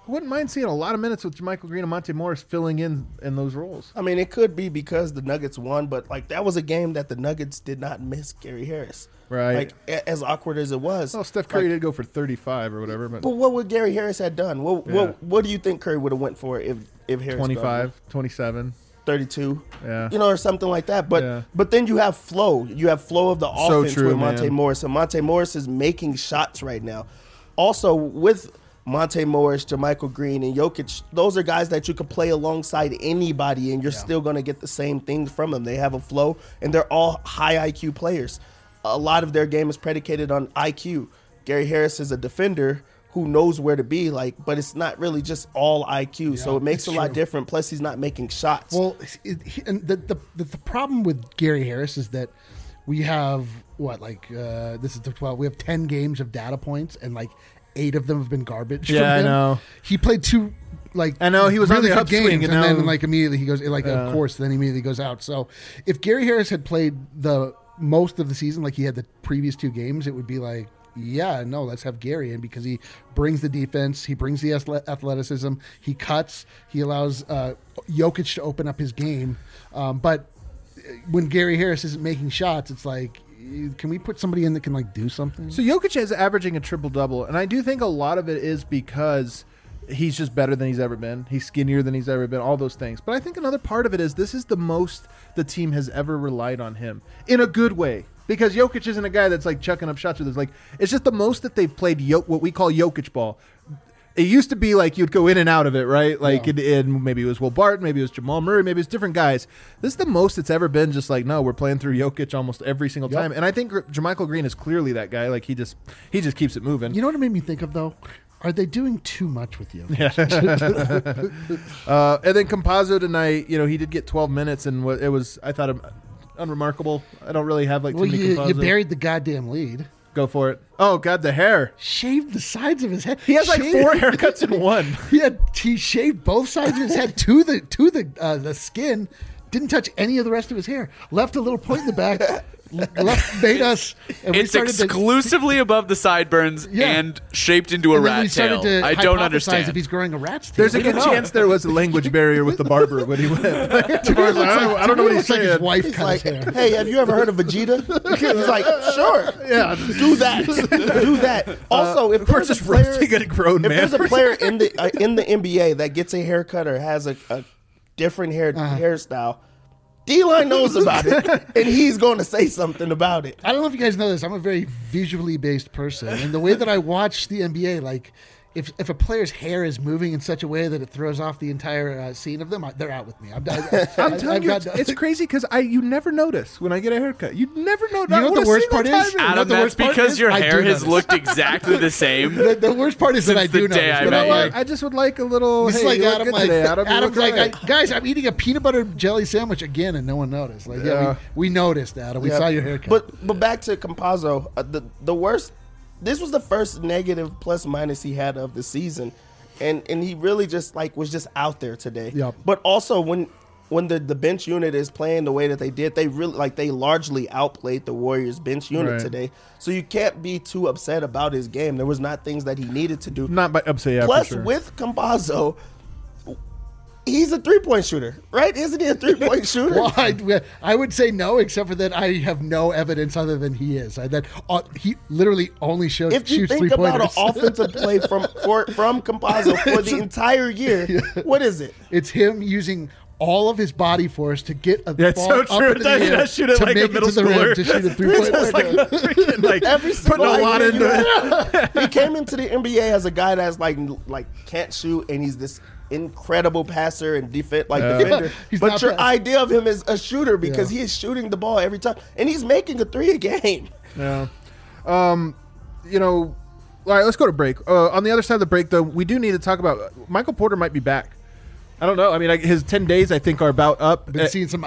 Speaker 3: wouldn't mind seeing a lot of minutes with Jermichael Green and Monte Morris filling in those roles.
Speaker 4: I mean, it could be because the Nuggets won, but like that was a game that the Nuggets did not miss Gary Harris.
Speaker 3: Right.
Speaker 4: Like as awkward as it was.
Speaker 3: Well, Steph Curry did go for 35 or whatever, but
Speaker 4: what would Gary Harris had done? What do you think Curry would have went for if Harris
Speaker 3: 25, 27.
Speaker 4: 32,
Speaker 3: Yeah.
Speaker 4: or something like that. But
Speaker 3: Yeah.
Speaker 4: but then you have flow. You have flow of the
Speaker 3: So
Speaker 4: offense
Speaker 3: true,
Speaker 4: with Monte
Speaker 3: man.
Speaker 4: Morris, and Monte Morris is making shots right now. Also with Monte Morris, Jermichael Green, and Jokic, those are guys that you could play alongside anybody, and you're still going to get the same things from them. They have a flow, and they're all high IQ players. A lot of their game is predicated on IQ. Gary Harris is a defender who knows where to be, but it's not really just all IQ, so it makes a lot different. Plus, he's not making shots.
Speaker 2: Well, and the problem with Gary Harris is that we have this is the 12. We have 10 games of data points, and 8 of them have been garbage.
Speaker 3: Yeah,
Speaker 2: from him.
Speaker 3: I know.
Speaker 2: He played 2
Speaker 3: I know he was
Speaker 2: really
Speaker 3: on the
Speaker 2: good games,
Speaker 3: upswing,
Speaker 2: and then
Speaker 3: now-
Speaker 2: immediately he goes of course, then immediately goes out. So if Gary Harris had played the most of the season like he had the previous 2 games, it would be let's have Gary in because he brings the defense, he brings the athleticism, he cuts, he allows Jokic to open up his game. But when Gary Harris isn't making shots, it's can we put somebody in that can do something?
Speaker 3: So Jokic is averaging a triple-double, and I do think a lot of it is because he's just better than he's ever been. He's skinnier than he's ever been, all those things. But I think another part of it is this is the most the team has ever relied on him in a good way. Because Jokic isn't a guy that's chucking up shots with us. It's just the most that they've played what we call Jokic ball. It used to be you'd go in and out of it, right? And maybe it was Will Barton, maybe it was Jamal Murray, maybe it's different guys. This is the most it's ever been just no, we're playing through Jokic almost every single time. And I think Jermichael Green is clearly that guy. He just keeps it moving.
Speaker 2: You know what it made me think of, though? Are they doing too much with you?
Speaker 3: And then Campazzo tonight, he did get 12 minutes, and it was, I thought, unremarkable. I don't really have too many Campazzo.
Speaker 2: You buried the goddamn lead.
Speaker 3: Go for it. Oh, God, the hair.
Speaker 2: Shaved the sides of his head.
Speaker 3: He has 4 haircuts in one.
Speaker 2: He shaved both sides of his head to the skin. Didn't touch any of the rest of his hair. Left a little point in the back. Made us. And
Speaker 5: It's exclusively above the sideburns and shaped into a rat tail. I don't understand.
Speaker 2: If he's growing a rat's tail.
Speaker 3: There's a good chance there was a language barrier with the barber when he went. I don't know what he's saying.
Speaker 2: His wife cut his hair.
Speaker 4: Hey, have you ever heard of Vegeta? He's like, sure.
Speaker 3: Yeah.
Speaker 4: Do that. Do that. Also, if
Speaker 3: we're
Speaker 4: there's a
Speaker 3: just
Speaker 4: player,
Speaker 3: roasting a grown man.
Speaker 4: if there's a player in the NBA that gets a haircut or has a different hairstyle, D-Line knows about it, and he's going to say something about it.
Speaker 2: I don't know if you guys know this. I'm a very visually based person, and the way that I watch the NBA, if a player's hair is moving in such a way that it throws off the entire scene of them, they're out with me.
Speaker 3: I'm telling you, it's crazy because you never notice when I get a haircut. You never notice.
Speaker 2: You know what the worst part is?
Speaker 5: Adam, that's because your hair has looked exactly the same.
Speaker 2: The worst part is that I do
Speaker 5: the day
Speaker 2: notice.
Speaker 5: I met you.
Speaker 3: I just would like a little.
Speaker 2: It's
Speaker 3: Hey,
Speaker 2: Adam,
Speaker 3: Adam's
Speaker 2: guys, I'm eating a peanut butter jelly sandwich again, and no one noticed. We noticed, Adam. We saw your haircut.
Speaker 4: But back to Campazzo, the worst. This was the first negative plus minus he had of the season, and he really just was just out there today.
Speaker 2: Yep.
Speaker 4: But also when the bench unit is playing the way that they did, they really they largely outplayed the Warriors bench unit today. So you can't be too upset about his game. There was not things that he needed to do.
Speaker 3: Not by upset. Yeah,
Speaker 4: Plus,
Speaker 3: for sure.
Speaker 4: with Campazzo, he's a 3-point shooter, right? Isn't he a 3-point shooter?
Speaker 2: Well, I would say no, except for that I have no evidence other than he is. He literally only shoots
Speaker 4: If you think
Speaker 2: 3-pointers.
Speaker 4: about an offensive play from Campazzo for the entire year, what is it?
Speaker 2: It's him using all of his body force to get a
Speaker 3: That's
Speaker 2: ball
Speaker 3: so
Speaker 2: up
Speaker 3: true.
Speaker 2: into the air
Speaker 3: That shoot it
Speaker 2: to
Speaker 3: like
Speaker 2: make
Speaker 3: a middle
Speaker 2: it to the rim
Speaker 3: schooler.
Speaker 2: to shoot a 3-point.
Speaker 4: Every
Speaker 3: putting a lot into it.
Speaker 4: He came into the NBA as a guy that's can't shoot, and he's this incredible passer and defender.
Speaker 2: He's
Speaker 4: But
Speaker 2: not
Speaker 4: your
Speaker 2: bad.
Speaker 4: idea of him is a shooter because he is shooting the ball every time, and he's making a 3 a game.
Speaker 3: Yeah. All right, let's go to break. On the other side of the break, though, we do need to talk about Michael Porter might be back. I don't know. I mean, his 10 days, I think, are about up.
Speaker 2: Been seeing some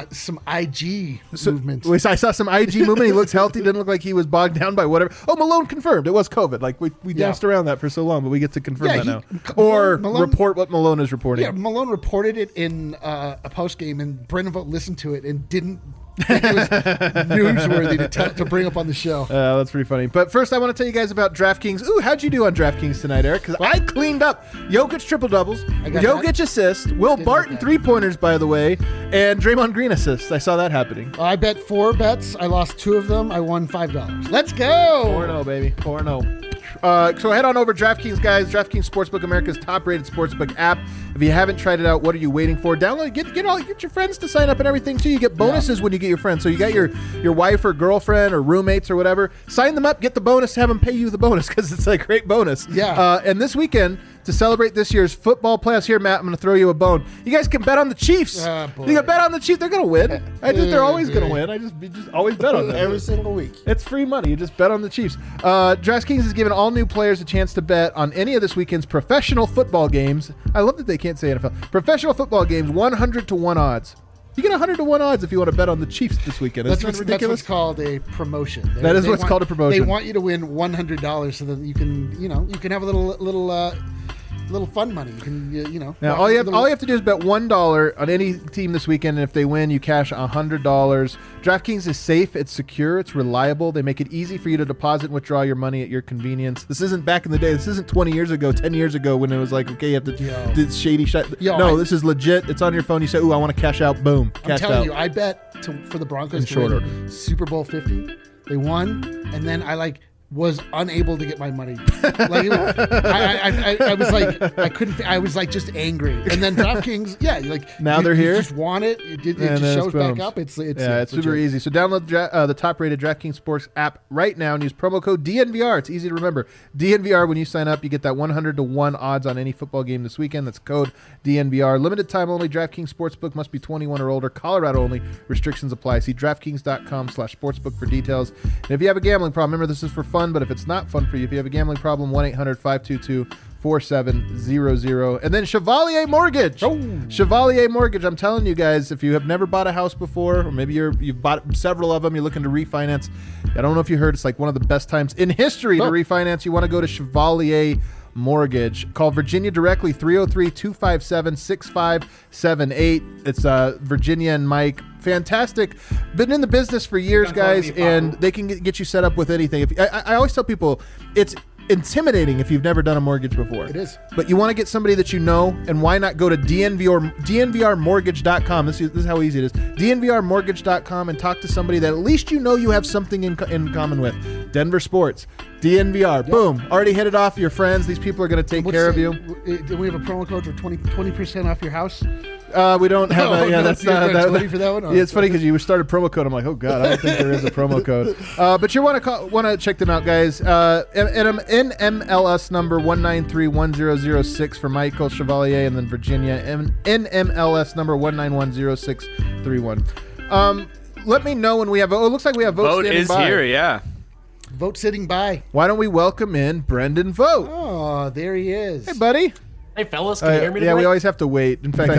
Speaker 2: IG movement.
Speaker 3: I saw some IG movement. He looks healthy. Didn't look like he was bogged down by whatever. Oh, Malone confirmed. It was COVID. We danced around that for so long, but we get to confirm that now. Or
Speaker 2: Malone,
Speaker 3: report what Malone is reporting.
Speaker 2: Yeah, Malone reported it in a post game, and Brendan Vogt listened to it and didn't It was newsworthy to bring up on the show.
Speaker 3: That's pretty funny. But first, I want to tell you guys about DraftKings. Ooh, how'd you do on DraftKings tonight, Eric? Because I cleaned up Jokic triple-doubles, Jokic assist, Will Barton three-pointers, by the way, and Draymond Green assists. I saw that happening.
Speaker 2: I bet 4 bets. I lost 2 of them. I won $5. Let's go.
Speaker 3: 4-0, baby. 4-0. So head on over to DraftKings, guys. DraftKings Sportsbook, America's top-rated sportsbook app. If you haven't tried it out, what are you waiting for? Download it. Get your friends to sign up and everything too. You get bonuses when you get your friends. So you got your wife or girlfriend or roommates or whatever. Sign them up. Get the bonus. Have them pay you the bonus because it's a great bonus.
Speaker 2: Yeah.
Speaker 3: And this weekend, to celebrate this year's football playoffs, here, Matt, I'm going to throw you a bone. You guys can bet on the Chiefs. You can bet on the Chiefs. They're going to win. They're always going to win. You just always bet on them
Speaker 4: every single week.
Speaker 3: It's free money. You just bet on the Chiefs. DraftKings is giving all new players a chance to bet on any of this weekend's professional football games. I love that they can't say NFL. Professional football games, 100-1 odds. You get 100-1 odds if you want to bet on the Chiefs this weekend.
Speaker 2: That's
Speaker 3: ridiculous.
Speaker 2: That's what's called a promotion.
Speaker 3: That is what's called a promotion.
Speaker 2: They want you to win $100 so that you can have a little fun money. You can
Speaker 3: Now all you have to do is bet $1 on any team this weekend, and if they win, you cash $100. DraftKings is safe, it's secure, it's reliable. They make it easy for you to deposit and withdraw your money at your convenience. This isn't back in the day. This isn't 20 years ago, 10 years ago when it was like, okay, you have to do shady shit. This is legit. It's on your phone. You say, "Ooh, I want to cash out." Boom,
Speaker 2: I'm telling you, I bet for the Broncos to win Super Bowl 50. They won, and then I was unable to get my money. I was like, I couldn't. I was like just angry. And then DraftKings,
Speaker 3: now they're here.
Speaker 2: You just want it. It just shows back up. It's
Speaker 3: super easy. So download the top-rated DraftKings Sports app right now and use promo code DNVR. It's easy to remember. DNVR. When you sign up, you get that 100-1 odds on any football game this weekend. That's code DNVR. Limited time only. DraftKings Sportsbook must be 21 or older. Colorado only. Restrictions apply. See DraftKings.com/sportsbook for details. And if you have a gambling problem, remember this is for fun. But if it's not fun for you, if you have a gambling problem, 1-800-522-4700. And then Chevalier Mortgage. Chevalier Mortgage. I'm telling you guys, if you have never bought a house before, or maybe you've bought several of them, you're looking to refinance. I don't know if you heard, it's like one of the best times in history to refinance. You want to go to Chevalier Mortgage. Call Virginia directly, 303-257-6578. It's Virginia and Mike. Fantastic. Been in the business for years, guys, and they can get you set up with anything. I always tell people it's intimidating if you've never done a mortgage before.
Speaker 2: It is.
Speaker 3: But you want to get somebody that you know, and why not go to DNVRmortgage.com. This is how easy it is. DNVRmortgage.com and talk to somebody that at least you know you have something in common with. Denver Sports. DNVR. Yep. Boom. Already hit it off your friends. These people are going to take care of you.
Speaker 2: Do we have a promo code for 20% off your house?
Speaker 3: We don't have that's not
Speaker 2: ready for that one.
Speaker 3: Yeah, it's funny because you started promo code. I'm like, oh god, I don't think there is a promo code. But you want to check them out, guys. NMLS number 1931006 for Michael Chevalier, and then Virginia NMLS number 1910631. Let me know when we have. Oh, it looks like we have votes.
Speaker 5: Vote is
Speaker 3: by.
Speaker 5: Here, yeah.
Speaker 2: Vote sitting by.
Speaker 3: Why don't we welcome in Brendan Vogt?
Speaker 2: Oh, there he is.
Speaker 3: Hey, buddy.
Speaker 1: Hey, fellas, can you hear me
Speaker 3: Yeah,
Speaker 1: tonight?
Speaker 3: we always have to wait. In fact,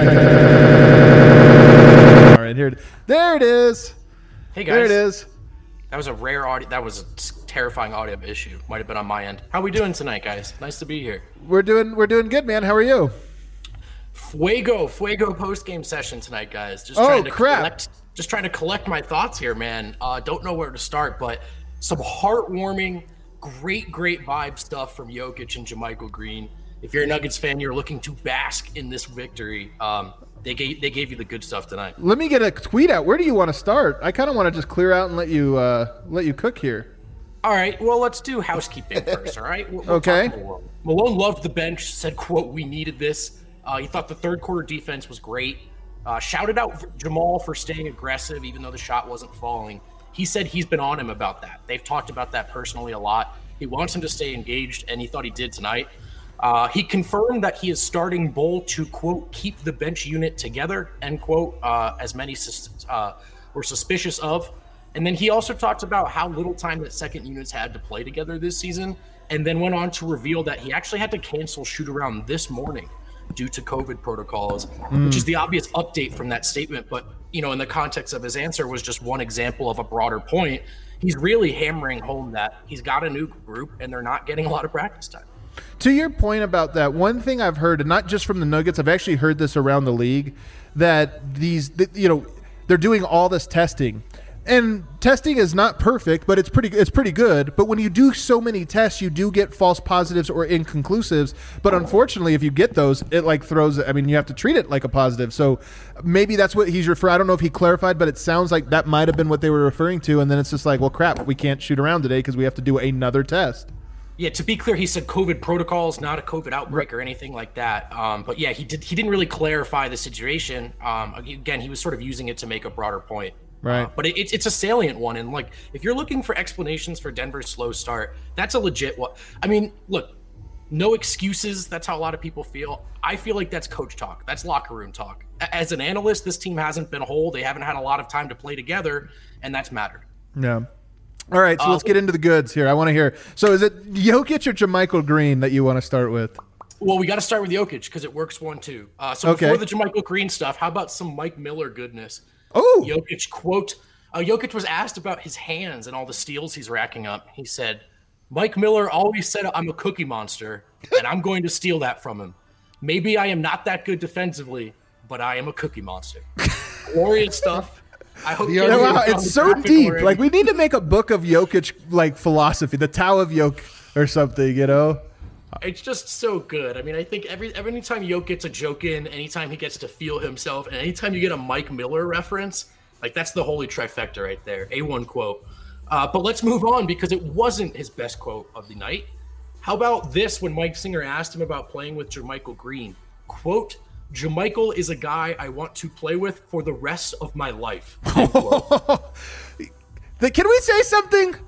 Speaker 3: all right, there it is.
Speaker 1: Hey, guys.
Speaker 3: There it is.
Speaker 1: That was a rare audio. That was a terrifying audio issue. Might have been on my end. How we doing tonight, guys? Nice to be here.
Speaker 3: We're doing good, man. How are you?
Speaker 1: Fuego post-game session tonight, guys. Just trying to collect my thoughts here, man. Don't know where to start, but some heartwarming, great vibe stuff from Jokic and JaMychal Green. If you're a Nuggets fan, you're looking to bask in this victory. They gave you the good stuff tonight.
Speaker 3: Let me get a tweet out. Where do you want to start? I kind of want to just clear out and let you cook here.
Speaker 1: All right. Well, let's do housekeeping first. All right. We'll
Speaker 3: okay.
Speaker 1: Malone loved the bench. Said, "quote We needed this." He thought the third quarter defense was great. Shouted out Jamal for staying aggressive, even though the shot wasn't falling. He said he's been on him about that. They've talked about that personally a lot. He wants him to stay engaged, and he thought he did tonight. He confirmed that he is starting Bol to, quote, keep the bench unit together, end quote, as many were suspicious of. And then he also talked about how little time that second units had to play together this season, and then went on to reveal that he actually had to cancel shoot-around this morning due to COVID protocols, which is the obvious update from that statement. But, you know, in the context of his answer was just one example of a broader point. He's really hammering home that he's got a new group and they're not getting a lot of practice time.
Speaker 3: To your point about that, one thing I've heard, and not just from the Nuggets, I've actually heard this around the league, that they're doing all this testing. And testing is not perfect, but it's pretty good. But when you do so many tests, you do get false positives or inconclusives. But unfortunately, if you get those, it like throws. I mean, you have to treat it like a positive. So maybe that's what he's referring. I don't know if he clarified, but it sounds like that might have been what they were referring to. And then it's just like, well, crap, we can't shoot around today because we have to do another test.
Speaker 1: Yeah, to be clear, he said COVID protocols, not a COVID outbreak or anything like that. But yeah, he didn't really clarify the situation. Again, he was sort of using it to make a broader point.
Speaker 3: Right.
Speaker 1: But it's a salient one. And like, if you're looking for explanations for Denver's slow start, that's a legit one. I mean, look, no excuses. That's how a lot of people feel. I feel like that's coach talk. That's locker room talk. As an analyst, this team hasn't been whole. They haven't had a lot of time to play together, and that's mattered.
Speaker 3: Yeah. All right, so let's get into the goods here. I want to hear. So is it Jokic or JaMychal Green that you want to start with?
Speaker 1: Well, we got to start with Jokic because it works 1-2. Before the JaMychal Green stuff, how about some Mike Miller goodness?
Speaker 3: Oh,
Speaker 1: Jokic quote. Jokic was asked about his hands and all the steals he's racking up. He said, Mike Miller always said I'm a cookie monster, and I'm going to steal that from him. Maybe I am not that good defensively, but I am a cookie monster. Glorious stuff. I hope
Speaker 3: wow, it's so deep. Already. Like, we need to make a book of Jokic, like, philosophy, the Tao of Jokic or something, you know?
Speaker 1: It's just so good. I mean, I think every time Jokic gets a joke in, anytime he gets to feel himself, and anytime you get a Mike Miller reference, like, that's the holy trifecta right there. A1 quote. But let's move on because it wasn't his best quote of the night. How about this when Mike Singer asked him about playing with JaMychal Green? Quote, JaMychal is a guy I want to play with for the rest of my life. Can
Speaker 3: we say something?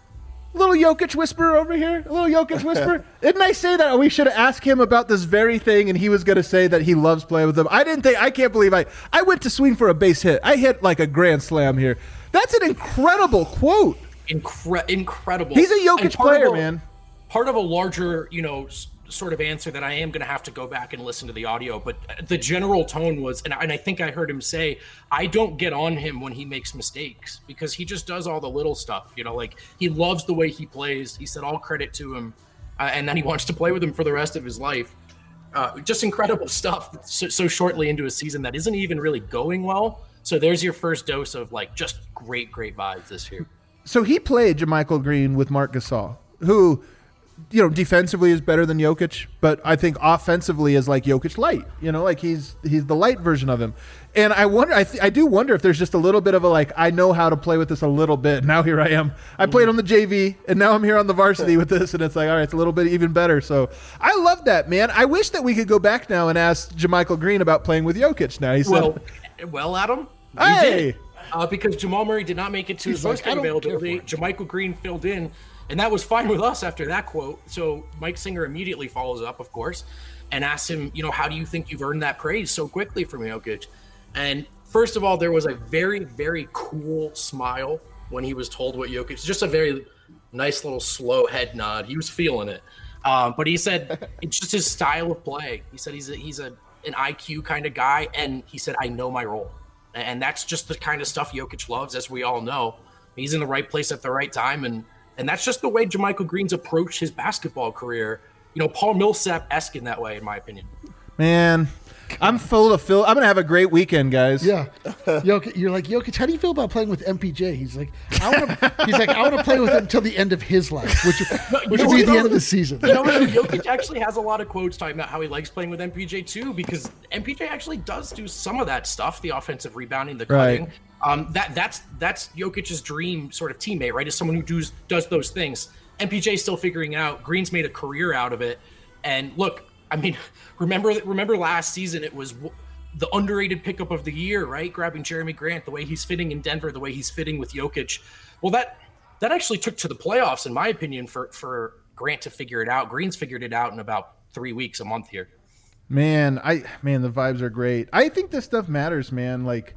Speaker 3: A little Jokic whisper over here. A little Jokic whisper. Didn't I say that we should have asked him about this very thing, and he was going to say that he loves playing with them? I can't believe I went to swing for a base hit. I hit like a grand slam here. That's an incredible quote.
Speaker 1: Incredible.
Speaker 3: He's a Jokic player, man.
Speaker 1: Part of a larger, sort of answer that I am going to have to go back and listen to the audio, but the general tone was, and I think I heard him say, I don't get on him when he makes mistakes because he just does all the little stuff, like he loves the way he plays. He said all credit to him, and then he wants to play with him for the rest of his life. Just incredible stuff so shortly into a season that isn't even really going well. So there's your first dose of like just great vibes this year.
Speaker 3: So he played JaMychal Green with Marc Gasol, who defensively is better than Jokic, but I think offensively is like Jokic light. Like he's the light version of him. And I wonder, I do wonder if there's just a little bit of a like, I know how to play with this a little bit. Now here I am. I played on the JV, and now I'm here on the varsity with this, and it's like, all right, it's a little bit even better. So I love that, man. I wish that we could go back now and ask JaMychal Green about playing with Jokic. Now he said,
Speaker 1: well, Adam, you
Speaker 3: hey,
Speaker 1: did. Because Jamal Murray did not make it to his post-game availability. JaMychal Green filled in. And that was fine with us after that quote. So Mike Singer immediately follows up, of course, and asks him, how do you think you've earned that praise so quickly from Jokic? And first of all, there was a very, very cool smile when he was told what Jokic, just a very nice little slow head nod. He was feeling it. But he said it's just his style of play. He said he's an IQ kind of guy. And he said, I know my role. And that's just the kind of stuff Jokic loves, as we all know. He's in the right place at the right time. And that's just the way JaMychal Green's approached his basketball career. Paul Millsap-esque in that way, in my opinion.
Speaker 3: Man, I'm full of Phil. I'm going to have a great weekend, guys.
Speaker 2: Yeah. You're like, Jokic, how do you feel about playing with MPJ? He's like, I want to play with him until the end of his life, which will be the end of the season.
Speaker 1: Jokic actually has a lot of quotes talking about how he likes playing with MPJ too, because MPJ actually does do some of that stuff, the offensive rebounding, the cutting.
Speaker 3: Right.
Speaker 1: That's Jokic's dream sort of teammate, right? Is someone who does those things. MPJ's still figuring out. Green's made a career out of it. And look, I mean, remember last season, it was the underrated pickup of the year, right? Grabbing Jeremy Grant, the way he's fitting in Denver, the way he's fitting with Jokic. Well, that actually took to the playoffs, in my opinion, for Grant to figure it out. Green's figured it out in about 3 weeks, a month here.
Speaker 3: Man, the vibes are great. I think this stuff matters, man. Like,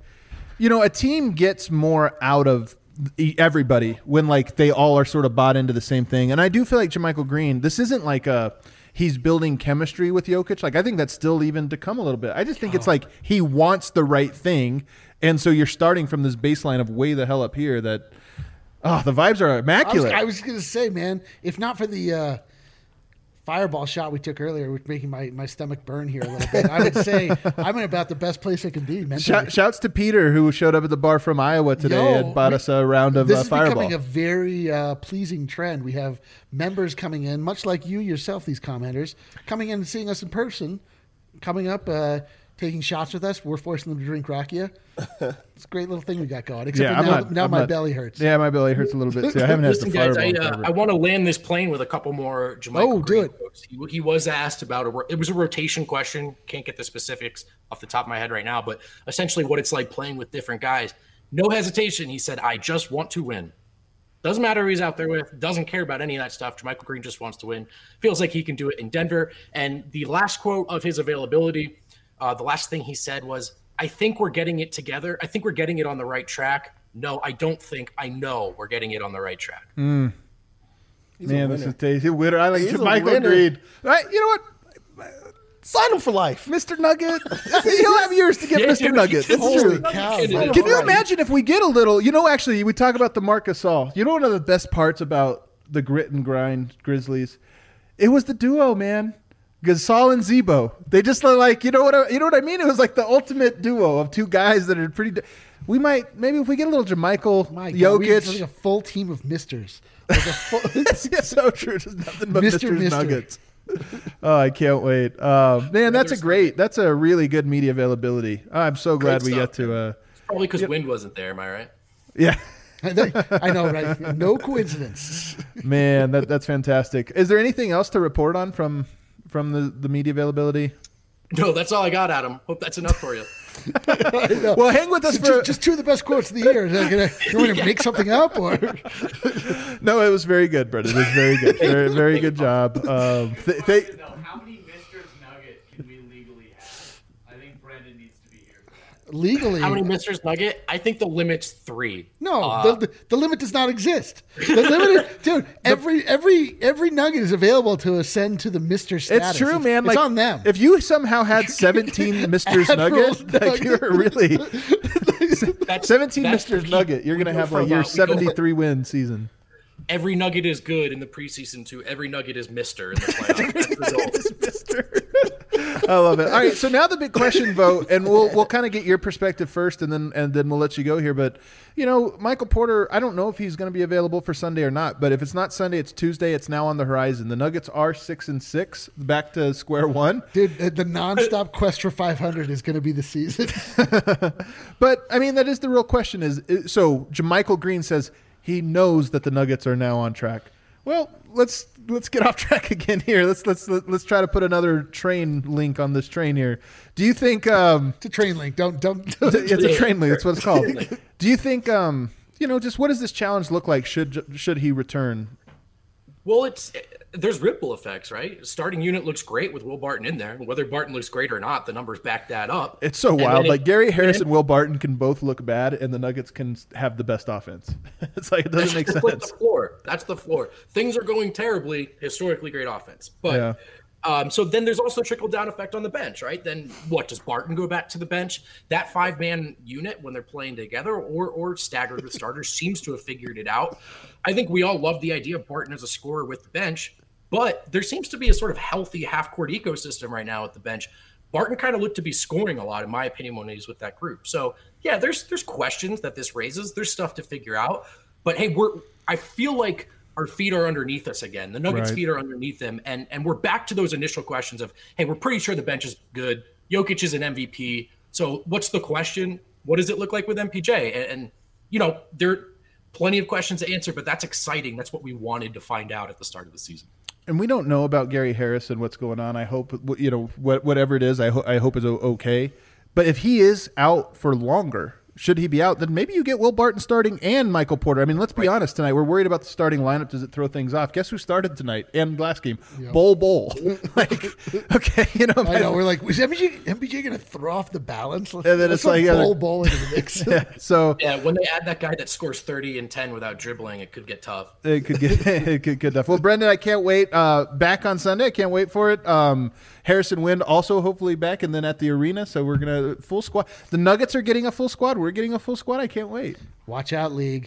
Speaker 3: a team gets more out of everybody when like they all are sort of bought into the same thing. And I do feel like JaMychal Green, this isn't like he's building chemistry with Jokic. Like, I think that's still even to come a little bit. I just think it's like he wants the right thing. And so you're starting from this baseline of way the hell up here that, the vibes are immaculate.
Speaker 2: I was going to say, man, if not for the fireball shot we took earlier was making my stomach burn here a little bit. I would say I'm in about the best place I can be mentally.
Speaker 3: Shouts to Peter, who showed up at the bar from Iowa today and bought us a round of
Speaker 2: This is
Speaker 3: fireball.
Speaker 2: becoming a very pleasing trend. We have members coming in, much like you yourself, these commenters, coming in and seeing us in person, coming up, taking shots with us. We're forcing them to drink rakia. It's a great little thing we got going. Except now my belly hurts.
Speaker 3: Yeah, my belly hurts a little bit too. I haven't had
Speaker 1: Listen,
Speaker 3: the
Speaker 1: guys,
Speaker 3: fireball.
Speaker 1: I want to land this plane with a couple more JaMychal
Speaker 2: do
Speaker 1: Green
Speaker 2: it.
Speaker 1: quotes. He was asked about it was a rotation question. Can't get the specifics off the top of my head right now, but essentially what it's like playing with different guys. No hesitation. He said, "I just want to win." Doesn't matter who he's out there with. Doesn't care about any of that stuff. JaMychal Green just wants to win. Feels like he can do it in Denver. And the last quote of his availability, the last thing he said was, "I think we're getting it together. I think we're getting it on the right track. No, I don't think. I know we're getting it on the right track."
Speaker 3: Man, this is tasty. Winner. I like
Speaker 4: He's a
Speaker 3: JaMychal
Speaker 4: winner.
Speaker 3: Green. Right, you know what?
Speaker 4: Sign him for life.
Speaker 3: Mr. Nugget. He'll have years to get
Speaker 1: Yeah,
Speaker 3: Mr.
Speaker 1: dude,
Speaker 3: Nugget.
Speaker 1: he
Speaker 3: It's
Speaker 1: can-
Speaker 3: true.
Speaker 2: cow,
Speaker 1: Can
Speaker 2: man.
Speaker 3: Can you imagine if we get a little, actually, we talk about the Marc Gasol. You know one of the best parts about the grit and grind Grizzlies? It was the duo, man. Gasol and Zebo. They just look like, you know what I mean? It was like the ultimate duo of two guys that are pretty. We might, maybe if we get a little JaMychal,
Speaker 2: My God, we have like
Speaker 3: Jokic.
Speaker 2: a full team of misters. Like a full,
Speaker 3: It's so true. There's nothing but
Speaker 2: Mr.
Speaker 3: Mr. Nuggets. Oh, I can't wait. Man, that's a really good media availability. I'm so glad we
Speaker 1: stuff,
Speaker 3: get to,
Speaker 1: It's probably because Wind wasn't there. Am I right?
Speaker 3: yeah.
Speaker 2: I know, right? No coincidence.
Speaker 3: Man, that's fantastic. Is there anything else to report on from the media availability?
Speaker 1: No, that's all I got, Adam. Hope that's enough for you.
Speaker 3: Well, hang with us for
Speaker 2: Just two of the best quotes of the year. You want to make something up, or
Speaker 3: No, it was very good, Brendan. It was very good. Very good job.
Speaker 5: How many Mr. Nugget can we legally have? I think Brendan needs to be here.
Speaker 2: legally?
Speaker 1: How many Mr. Nugget? I think the limit's 3.
Speaker 2: No, the limit does not exist. The limit, dude. Every nugget is available to ascend to the Mister status.
Speaker 3: It's true, man.
Speaker 2: It's
Speaker 3: Like,
Speaker 2: on them.
Speaker 3: If you somehow had 17 Mister's
Speaker 2: Admiral's
Speaker 3: Nugget, like you're really 17
Speaker 1: that's
Speaker 3: Mister's
Speaker 1: peak.
Speaker 3: Nugget, you're
Speaker 1: We
Speaker 3: gonna
Speaker 1: go
Speaker 3: have
Speaker 1: for
Speaker 3: like your
Speaker 1: about- we go for-
Speaker 3: 73 win season.
Speaker 1: Every Nugget is good in the preseason too. Every Nugget is Mister in the playoffs. That's the goal.
Speaker 3: Mister. I love it. All right, so now the big question vote, and we'll kind of get your perspective first, and then we'll let you go here. But Michael Porter, I don't know if he's going to be available for Sunday or not. But if it's not Sunday, it's Tuesday. It's now on the horizon. The Nuggets are 6-6, back to square one.
Speaker 2: Dude, the nonstop quest for 500 is going to be the season.
Speaker 3: But I mean, that is the real question. So JaMychal Green says he knows that the Nuggets are now on track. Well, let's get off track again here. Let's try to put another train link on this train here. Do you think
Speaker 2: It's a train link. Don't.
Speaker 3: it's a train link? That's what it's called. Do you think just what does this challenge look like? Should he return?
Speaker 1: Well, there's ripple effects, right? Starting unit looks great with Will Barton in there. Whether Barton looks great or not, the numbers back that up.
Speaker 3: It's so
Speaker 1: And
Speaker 3: wild.
Speaker 1: then
Speaker 3: Like Gary Harris and Will Barton can both look bad, and the Nuggets can have the best offense. It's like it doesn't make
Speaker 1: That's like
Speaker 3: sense.
Speaker 1: the floor. That's the floor. Things are going terribly. Historically great offense, but so then there's also trickle down effect on the bench, right? Then what does Barton go back to the bench? That 5-man unit when they're playing together or staggered with starters seems to have figured it out. I think we all love the idea of Barton as a scorer with the bench, but there seems to be a sort of healthy half-court ecosystem right now at the bench. Barton kind of looked to be scoring a lot, in my opinion, when he's with that group. So yeah, there's questions that this raises. There's stuff to figure out. But hey, I feel like our feet are underneath us again. The Nuggets'
Speaker 3: Right.
Speaker 1: feet are underneath them, and we're back to those initial questions of, hey, we're pretty sure the bench is good. Jokic is an MVP. So what's the question? What does it look like with MPJ? And there are plenty of questions to answer, but that's exciting. That's what we wanted to find out at the start of the season.
Speaker 3: And we don't know about Gary Harris and what's going on. I hope whatever it is, I hope is okay. But if he is out for longer, should he be out, then maybe you get Will Barton starting and Michael Porter. I mean, let's be honest tonight. We're worried about the starting lineup. Does it throw things off? Guess who started tonight and last game?
Speaker 2: Yeah.
Speaker 3: Bol. Like, okay,
Speaker 2: I know. We're like, is MPJ going to throw off the balance?
Speaker 3: And then
Speaker 2: Let's
Speaker 3: it's like,
Speaker 2: throw Bol into the mix.
Speaker 3: So
Speaker 1: Yeah, when they add that guy that scores 30 and 10 without dribbling, it could get tough.
Speaker 3: it could get good enough. Well, Brendan, I can't wait. Back on Sunday. I can't wait for it. Harrison Wind also hopefully back, and then at the arena. So we're gonna full squad. The Nuggets are getting a full squad. We're getting a full squad. I can't wait.
Speaker 2: Watch out, league.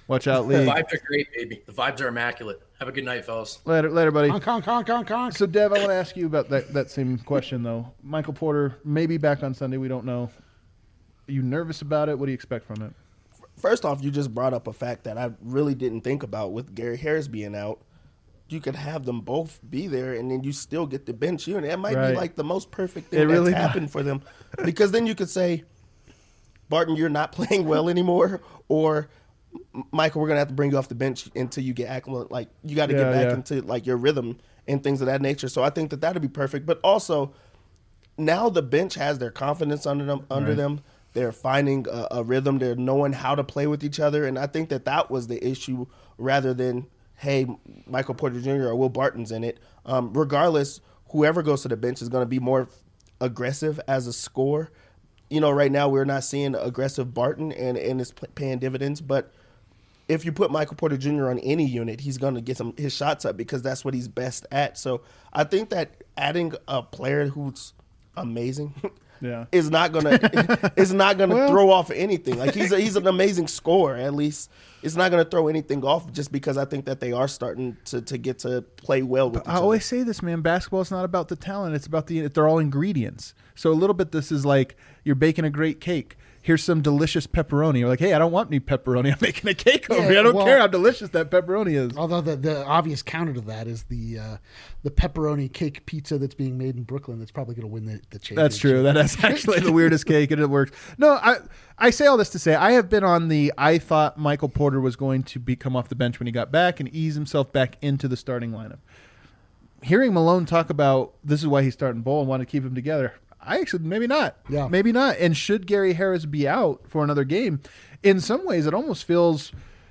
Speaker 3: Watch out,
Speaker 6: The
Speaker 3: Lee.
Speaker 6: vibes are great, baby. The vibes are immaculate. Have a good night, fellas.
Speaker 3: Later, buddy.
Speaker 2: Conk.
Speaker 3: So, Dev, I want to ask you about that same question, though. Michael Porter may be back on Sunday. We don't know. Are you nervous about it? What do you expect from it?
Speaker 4: First off, you just brought up a fact that I really didn't think about with Gary Harris being out. You could have them both be there, and then you still get the bench unit. That might
Speaker 3: Right.
Speaker 4: be like the most perfect thing
Speaker 3: It
Speaker 4: that's
Speaker 3: really
Speaker 4: happened for them. Because then you could say, Barton, you're not playing well anymore, or Michael, we're gonna have to bring you off the bench until you get acclimated. Like you got to get back into like your rhythm and things of that nature. So I think that that'd be perfect. But also, now the bench has their confidence under them. They're finding a rhythm. They're knowing how to play with each other, and I think that was the issue rather than hey, Michael Porter Jr. or Will Barton's in it. Regardless, whoever goes to the bench is going to be more aggressive as a scorer. You know, right now we're not seeing aggressive Barton, and it's paying dividends. But if you put Michael Porter Jr. on any unit, he's going to get his shots up because that's what he's best at. So I think that adding a player who's amazing is not gonna throw off anything. Like he's an amazing scorer. At least it's not gonna throw anything off just because I think that they are starting to get to play well with each other.
Speaker 3: I always say this, man. Basketball is not about the talent; it's about they're all ingredients. So a little bit, this is like you're baking a great cake. Here's some delicious pepperoni. You're like, hey, I don't want any pepperoni. I'm making a cake over here. I don't care how delicious that pepperoni is.
Speaker 2: Although the obvious counter to that is the pepperoni cake pizza that's being made in Brooklyn that's probably going to win the championship.
Speaker 3: That's true. That is actually the weirdest cake, and it works. No, I say all this to say I have been on I thought Michael Porter was going to come off the bench when he got back and ease himself back into the starting lineup. Hearing Malone talk about this is why he's starting Bol and want to keep him together, I actually maybe not.
Speaker 2: Yeah.
Speaker 3: Maybe not. And should Gary Harris be out for another game, in some ways it almost feels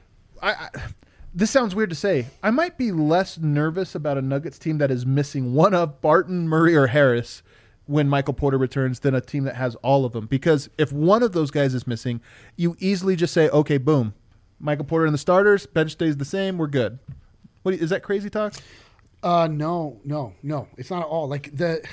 Speaker 3: this sounds weird to say. I might be less nervous about a Nuggets team that is missing one of Barton, Murray, or Harris when Michael Porter returns than a team that has all of them. Because if one of those guys is missing, you easily just say, okay, boom. Michael Porter and the starters, bench stays the same, we're good. Is that crazy talk?
Speaker 2: No. It's not at all. Like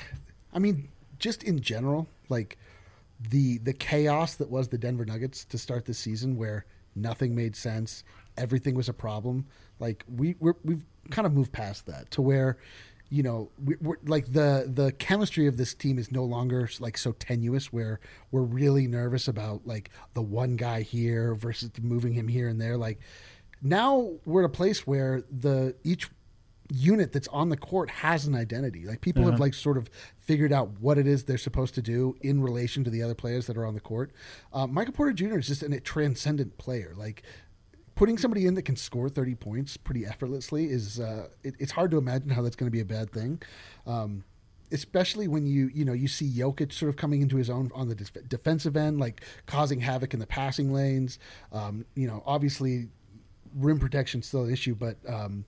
Speaker 2: just in general, like the chaos that was the Denver Nuggets to start this season, where nothing made sense, everything was a problem. Like we've kind of moved past that to where, you know, we're like the chemistry of this team is no longer like so tenuous where we're really nervous about like the one guy here versus moving him here and there. Like now we're at a place where each unit that's on the court has an identity. Like people have like sort of figured out what it is they're supposed to do in relation to the other players that are on the court. Michael Porter Jr. is just a transcendent player. Like putting somebody in that can score 30 points pretty effortlessly is it's hard to imagine how that's going to be a bad thing. Especially when you see Jokic sort of coming into his own on the defensive end, like causing havoc in the passing lanes. Obviously rim protection is still an issue, but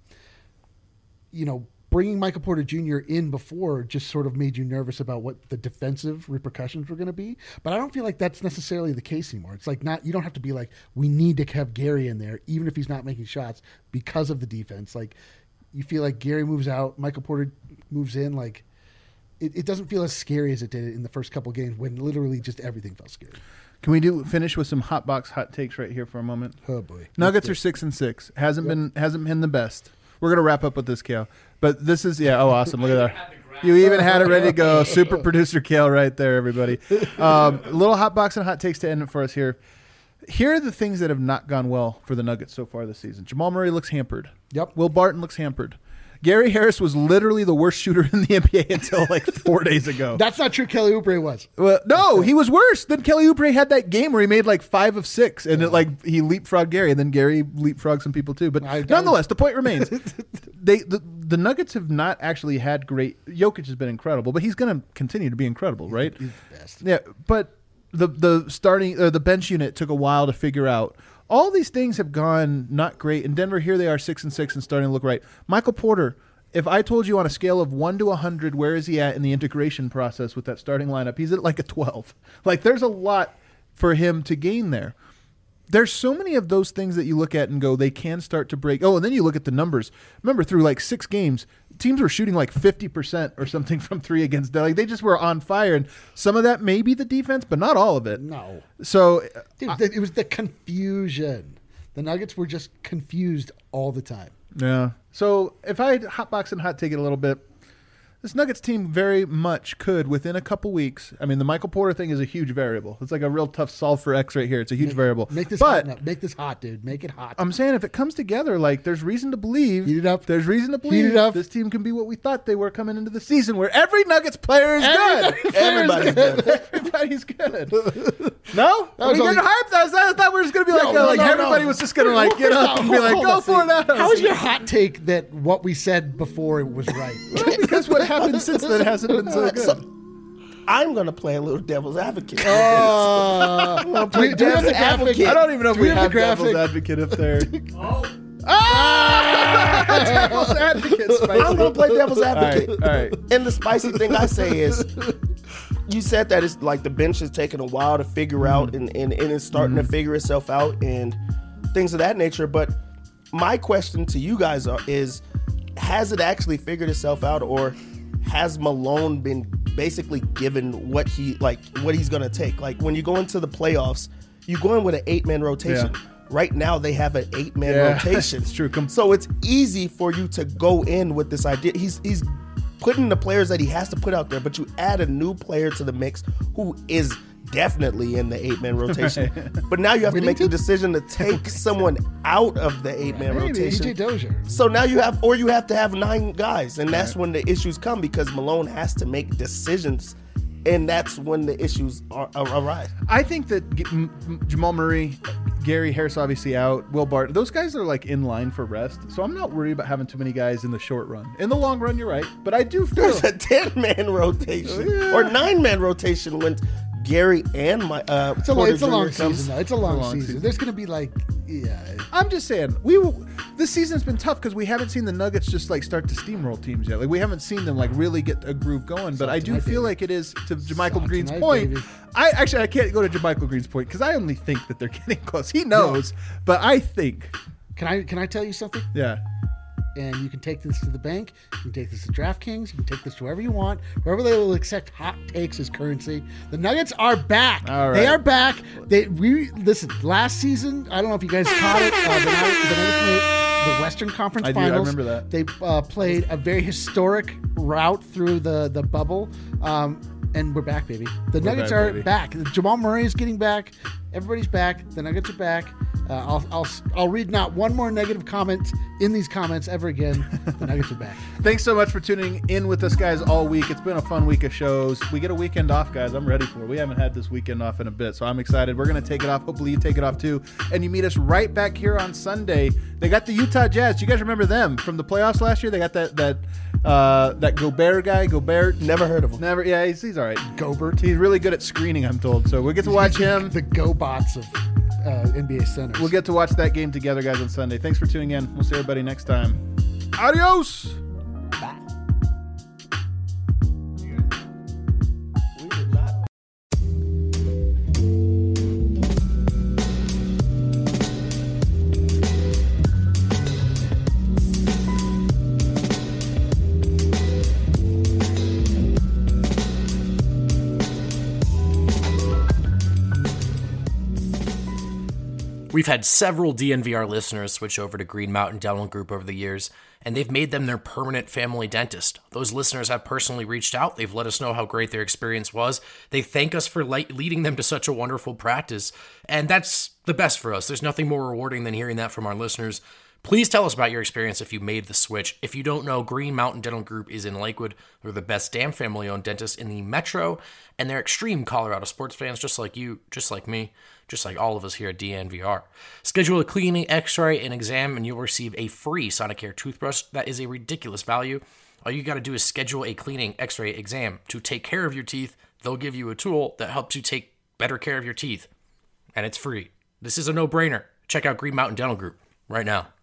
Speaker 2: bringing Michael Porter Jr. in before just sort of made you nervous about what the defensive repercussions were going to be. But I don't feel like that's necessarily the case anymore. It's like you don't have to be like, we need to have Gary in there, even if he's not making shots because of the defense. Like you feel like Gary moves out, Michael Porter moves in. Like it doesn't feel as scary as it did in the first couple of games when literally just everything felt scary.
Speaker 3: Can we finish with some hot box hot takes right here for a moment?
Speaker 2: Oh boy.
Speaker 3: Nuggets are 6-6. Hasn't been the best. We're going to wrap up with this, Kale. But this is, awesome. Look at that. You even had it ready to go. Super producer Kale right there, everybody. Little hot box and hot takes to end it for us here. Here are the things that have not gone well for the Nuggets so far this season. Jamal Murray looks hampered.
Speaker 2: Yep.
Speaker 3: Will Barton looks hampered. Gary Harris was literally the worst shooter in the NBA until like 4 days ago.
Speaker 2: That's not true. Kelly Oubre was.
Speaker 3: Well, no, he was worse. Then Kelly Oubre had that game where he made like 5 of 6, and he leapfrogged Gary, and then Gary leapfrogged some people too. But nonetheless, the point remains: the Nuggets have not actually had great. Jokic has been incredible, but he's going to continue to be incredible, right?
Speaker 2: He's the best.
Speaker 3: Yeah, but the bench unit took a while to figure out. All these things have gone not great. In Denver, here they are 6-6 and starting to look right. Michael Porter, if I told you on a scale of 1 to 100, where is he at in the integration process with that starting lineup? He's at like a 12. Like there's a lot for him to gain there. There's so many of those things that you look at and go, they can start to break. Oh, and then you look at the numbers. Remember, through like 6 games, teams were shooting like 50% or something from 3 against them. Like they just were on fire. And some of that may be the defense, but not all of it.
Speaker 2: No.
Speaker 3: So
Speaker 2: Dude, it was the confusion. The Nuggets were just confused all the time.
Speaker 3: Yeah. So if I hotbox and hot take it a little bit, this Nuggets team very much could, within a couple weeks. I mean, the Michael Porter thing is a huge variable. It's like a real tough solve for X right here. It's a huge variable.
Speaker 2: Make this
Speaker 3: but
Speaker 2: hot. Make this hot, dude. Make it hot.
Speaker 3: I'm saying if it comes together, like there's reason to believe.
Speaker 2: Heat it up.
Speaker 3: There's reason to believe
Speaker 2: Heat it up.
Speaker 3: this team can be what we thought they were coming into the season, where every Nuggets player is good.
Speaker 4: Everybody's good.
Speaker 3: Everybody's good. No? Are we
Speaker 2: was only-
Speaker 3: getting hyped? I thought we were just going to be like,
Speaker 2: No,
Speaker 3: everybody was just going to like get up and be like, go for it.
Speaker 2: How is your hot take that what we said before it was right?
Speaker 3: Because what happened since then hasn't been so good.
Speaker 4: So, I'm going to play a little devil's advocate.
Speaker 2: Do we have the graphic?
Speaker 4: advocate.
Speaker 3: I don't even know if
Speaker 2: Do
Speaker 3: we
Speaker 2: we have
Speaker 3: have
Speaker 2: the graphic?
Speaker 3: devil's advocate up there. Devil's advocate, spicy.
Speaker 4: I'm going to play devil's advocate.
Speaker 3: All right.
Speaker 4: And the spicy thing I say is, you said that it's like the bench is taking a while to figure out and it's starting to figure itself out and things of that nature. But my question to you guys is, has it actually figured itself out, or has Malone been basically given what he's going to take? Like when you go into the playoffs, you go in with an 8-man rotation.
Speaker 3: Yeah.
Speaker 4: Right now they have an 8-man
Speaker 3: Yeah,
Speaker 4: rotation.
Speaker 3: it's true.
Speaker 4: So it's easy for you to go in with this idea. He's putting the players that he has to put out there, but you add a new player to the mix who is definitely in the 8-man rotation. But now you have to make the decision to take someone out of the 8-man
Speaker 2: Maybe
Speaker 4: rotation.
Speaker 2: EJ Dozier.
Speaker 4: So now you have to have 9 guys, and that's when the issues come, because Malone has to make decisions, and that's when the issues arise.
Speaker 3: I think that Jamal Murray, Gary Harris obviously out, Will Barton, those guys are like in line for rest. So I'm not worried about having too many guys in the short run. In the long run, you're right. But I do feel
Speaker 4: There's a 10-man rotation or 9-man rotation when Gary and my
Speaker 2: It's a
Speaker 4: Porter
Speaker 2: long
Speaker 4: Jr. comes.
Speaker 2: season, though. It's a long season. There's going to be
Speaker 3: I'm just saying, this season's been tough because we haven't seen the Nuggets just like start to steamroll teams yet. Like we haven't seen them like really get a groove going. But I do feel like it is, to JaMychal Green's point.
Speaker 2: baby.
Speaker 3: I can't go to JaMychal Green's point because I only think that they're getting close. He knows, but I think.
Speaker 2: Can I tell you something?
Speaker 3: Yeah.
Speaker 2: And you can take this to the bank. You can take this to DraftKings. You can take this to wherever you want. Wherever they will accept hot takes as currency. The Nuggets are back.
Speaker 3: All right.
Speaker 2: They are back. Listen. Last season, I don't know if you guys caught it. The Nuggets made the Western Conference
Speaker 3: I
Speaker 2: Finals.
Speaker 3: remember that.
Speaker 2: They played a very historic route through the bubble. And we're back, baby. The Nuggets
Speaker 3: back,
Speaker 2: are
Speaker 3: baby.
Speaker 2: back. Jamal Murray is getting back. Everybody's back. The Nuggets are back. I'll read not one more negative comment in these comments ever again. The Nuggets are back.
Speaker 3: Thanks so much for tuning in with us, guys, all week. It's been a fun week of shows. We get a weekend off, guys. I'm ready for it. We haven't had this weekend off in a bit, so I'm excited. We're going to take it off. Hopefully you take it off too. And you meet us right back here on Sunday. They got the Utah Jazz. You guys remember them from the playoffs last year? They got that Gobert guy. Gobert.
Speaker 4: Never heard of him.
Speaker 3: Never. Yeah, he's all right.
Speaker 2: Gobert.
Speaker 3: He's really good at screening, I'm told. So we get to watch him.
Speaker 2: The GoBots of NBA centers.
Speaker 3: We'll get to watch that game together, guys, on Sunday. Thanks for tuning in. We'll see everybody next time. Adios.
Speaker 2: Bye.
Speaker 4: We did not.
Speaker 1: We've had several DNVR listeners switch over to Green Mountain Dental Group over the years, and they've made them their permanent family dentist. Those listeners have personally reached out. They've let us know how great their experience was. They thank us for leading them to such a wonderful practice, and that's the best for us. There's nothing more rewarding than hearing that from our listeners. Please tell us about your experience if you made the switch. If you don't know, Green Mountain Dental Group is in Lakewood. They're the best damn family-owned dentist in the metro, and they're extreme Colorado sports fans just like you, just like me, just like all of us here at DNVR. Schedule a cleaning, x-ray, and exam, and you'll receive a free Sonicare toothbrush. That is a ridiculous value. All you got to do is schedule a cleaning, x-ray, exam to take care of your teeth. They'll give you a tool that helps you take better care of your teeth, and it's free. This is a no-brainer. Check out Green Mountain Dental Group right now.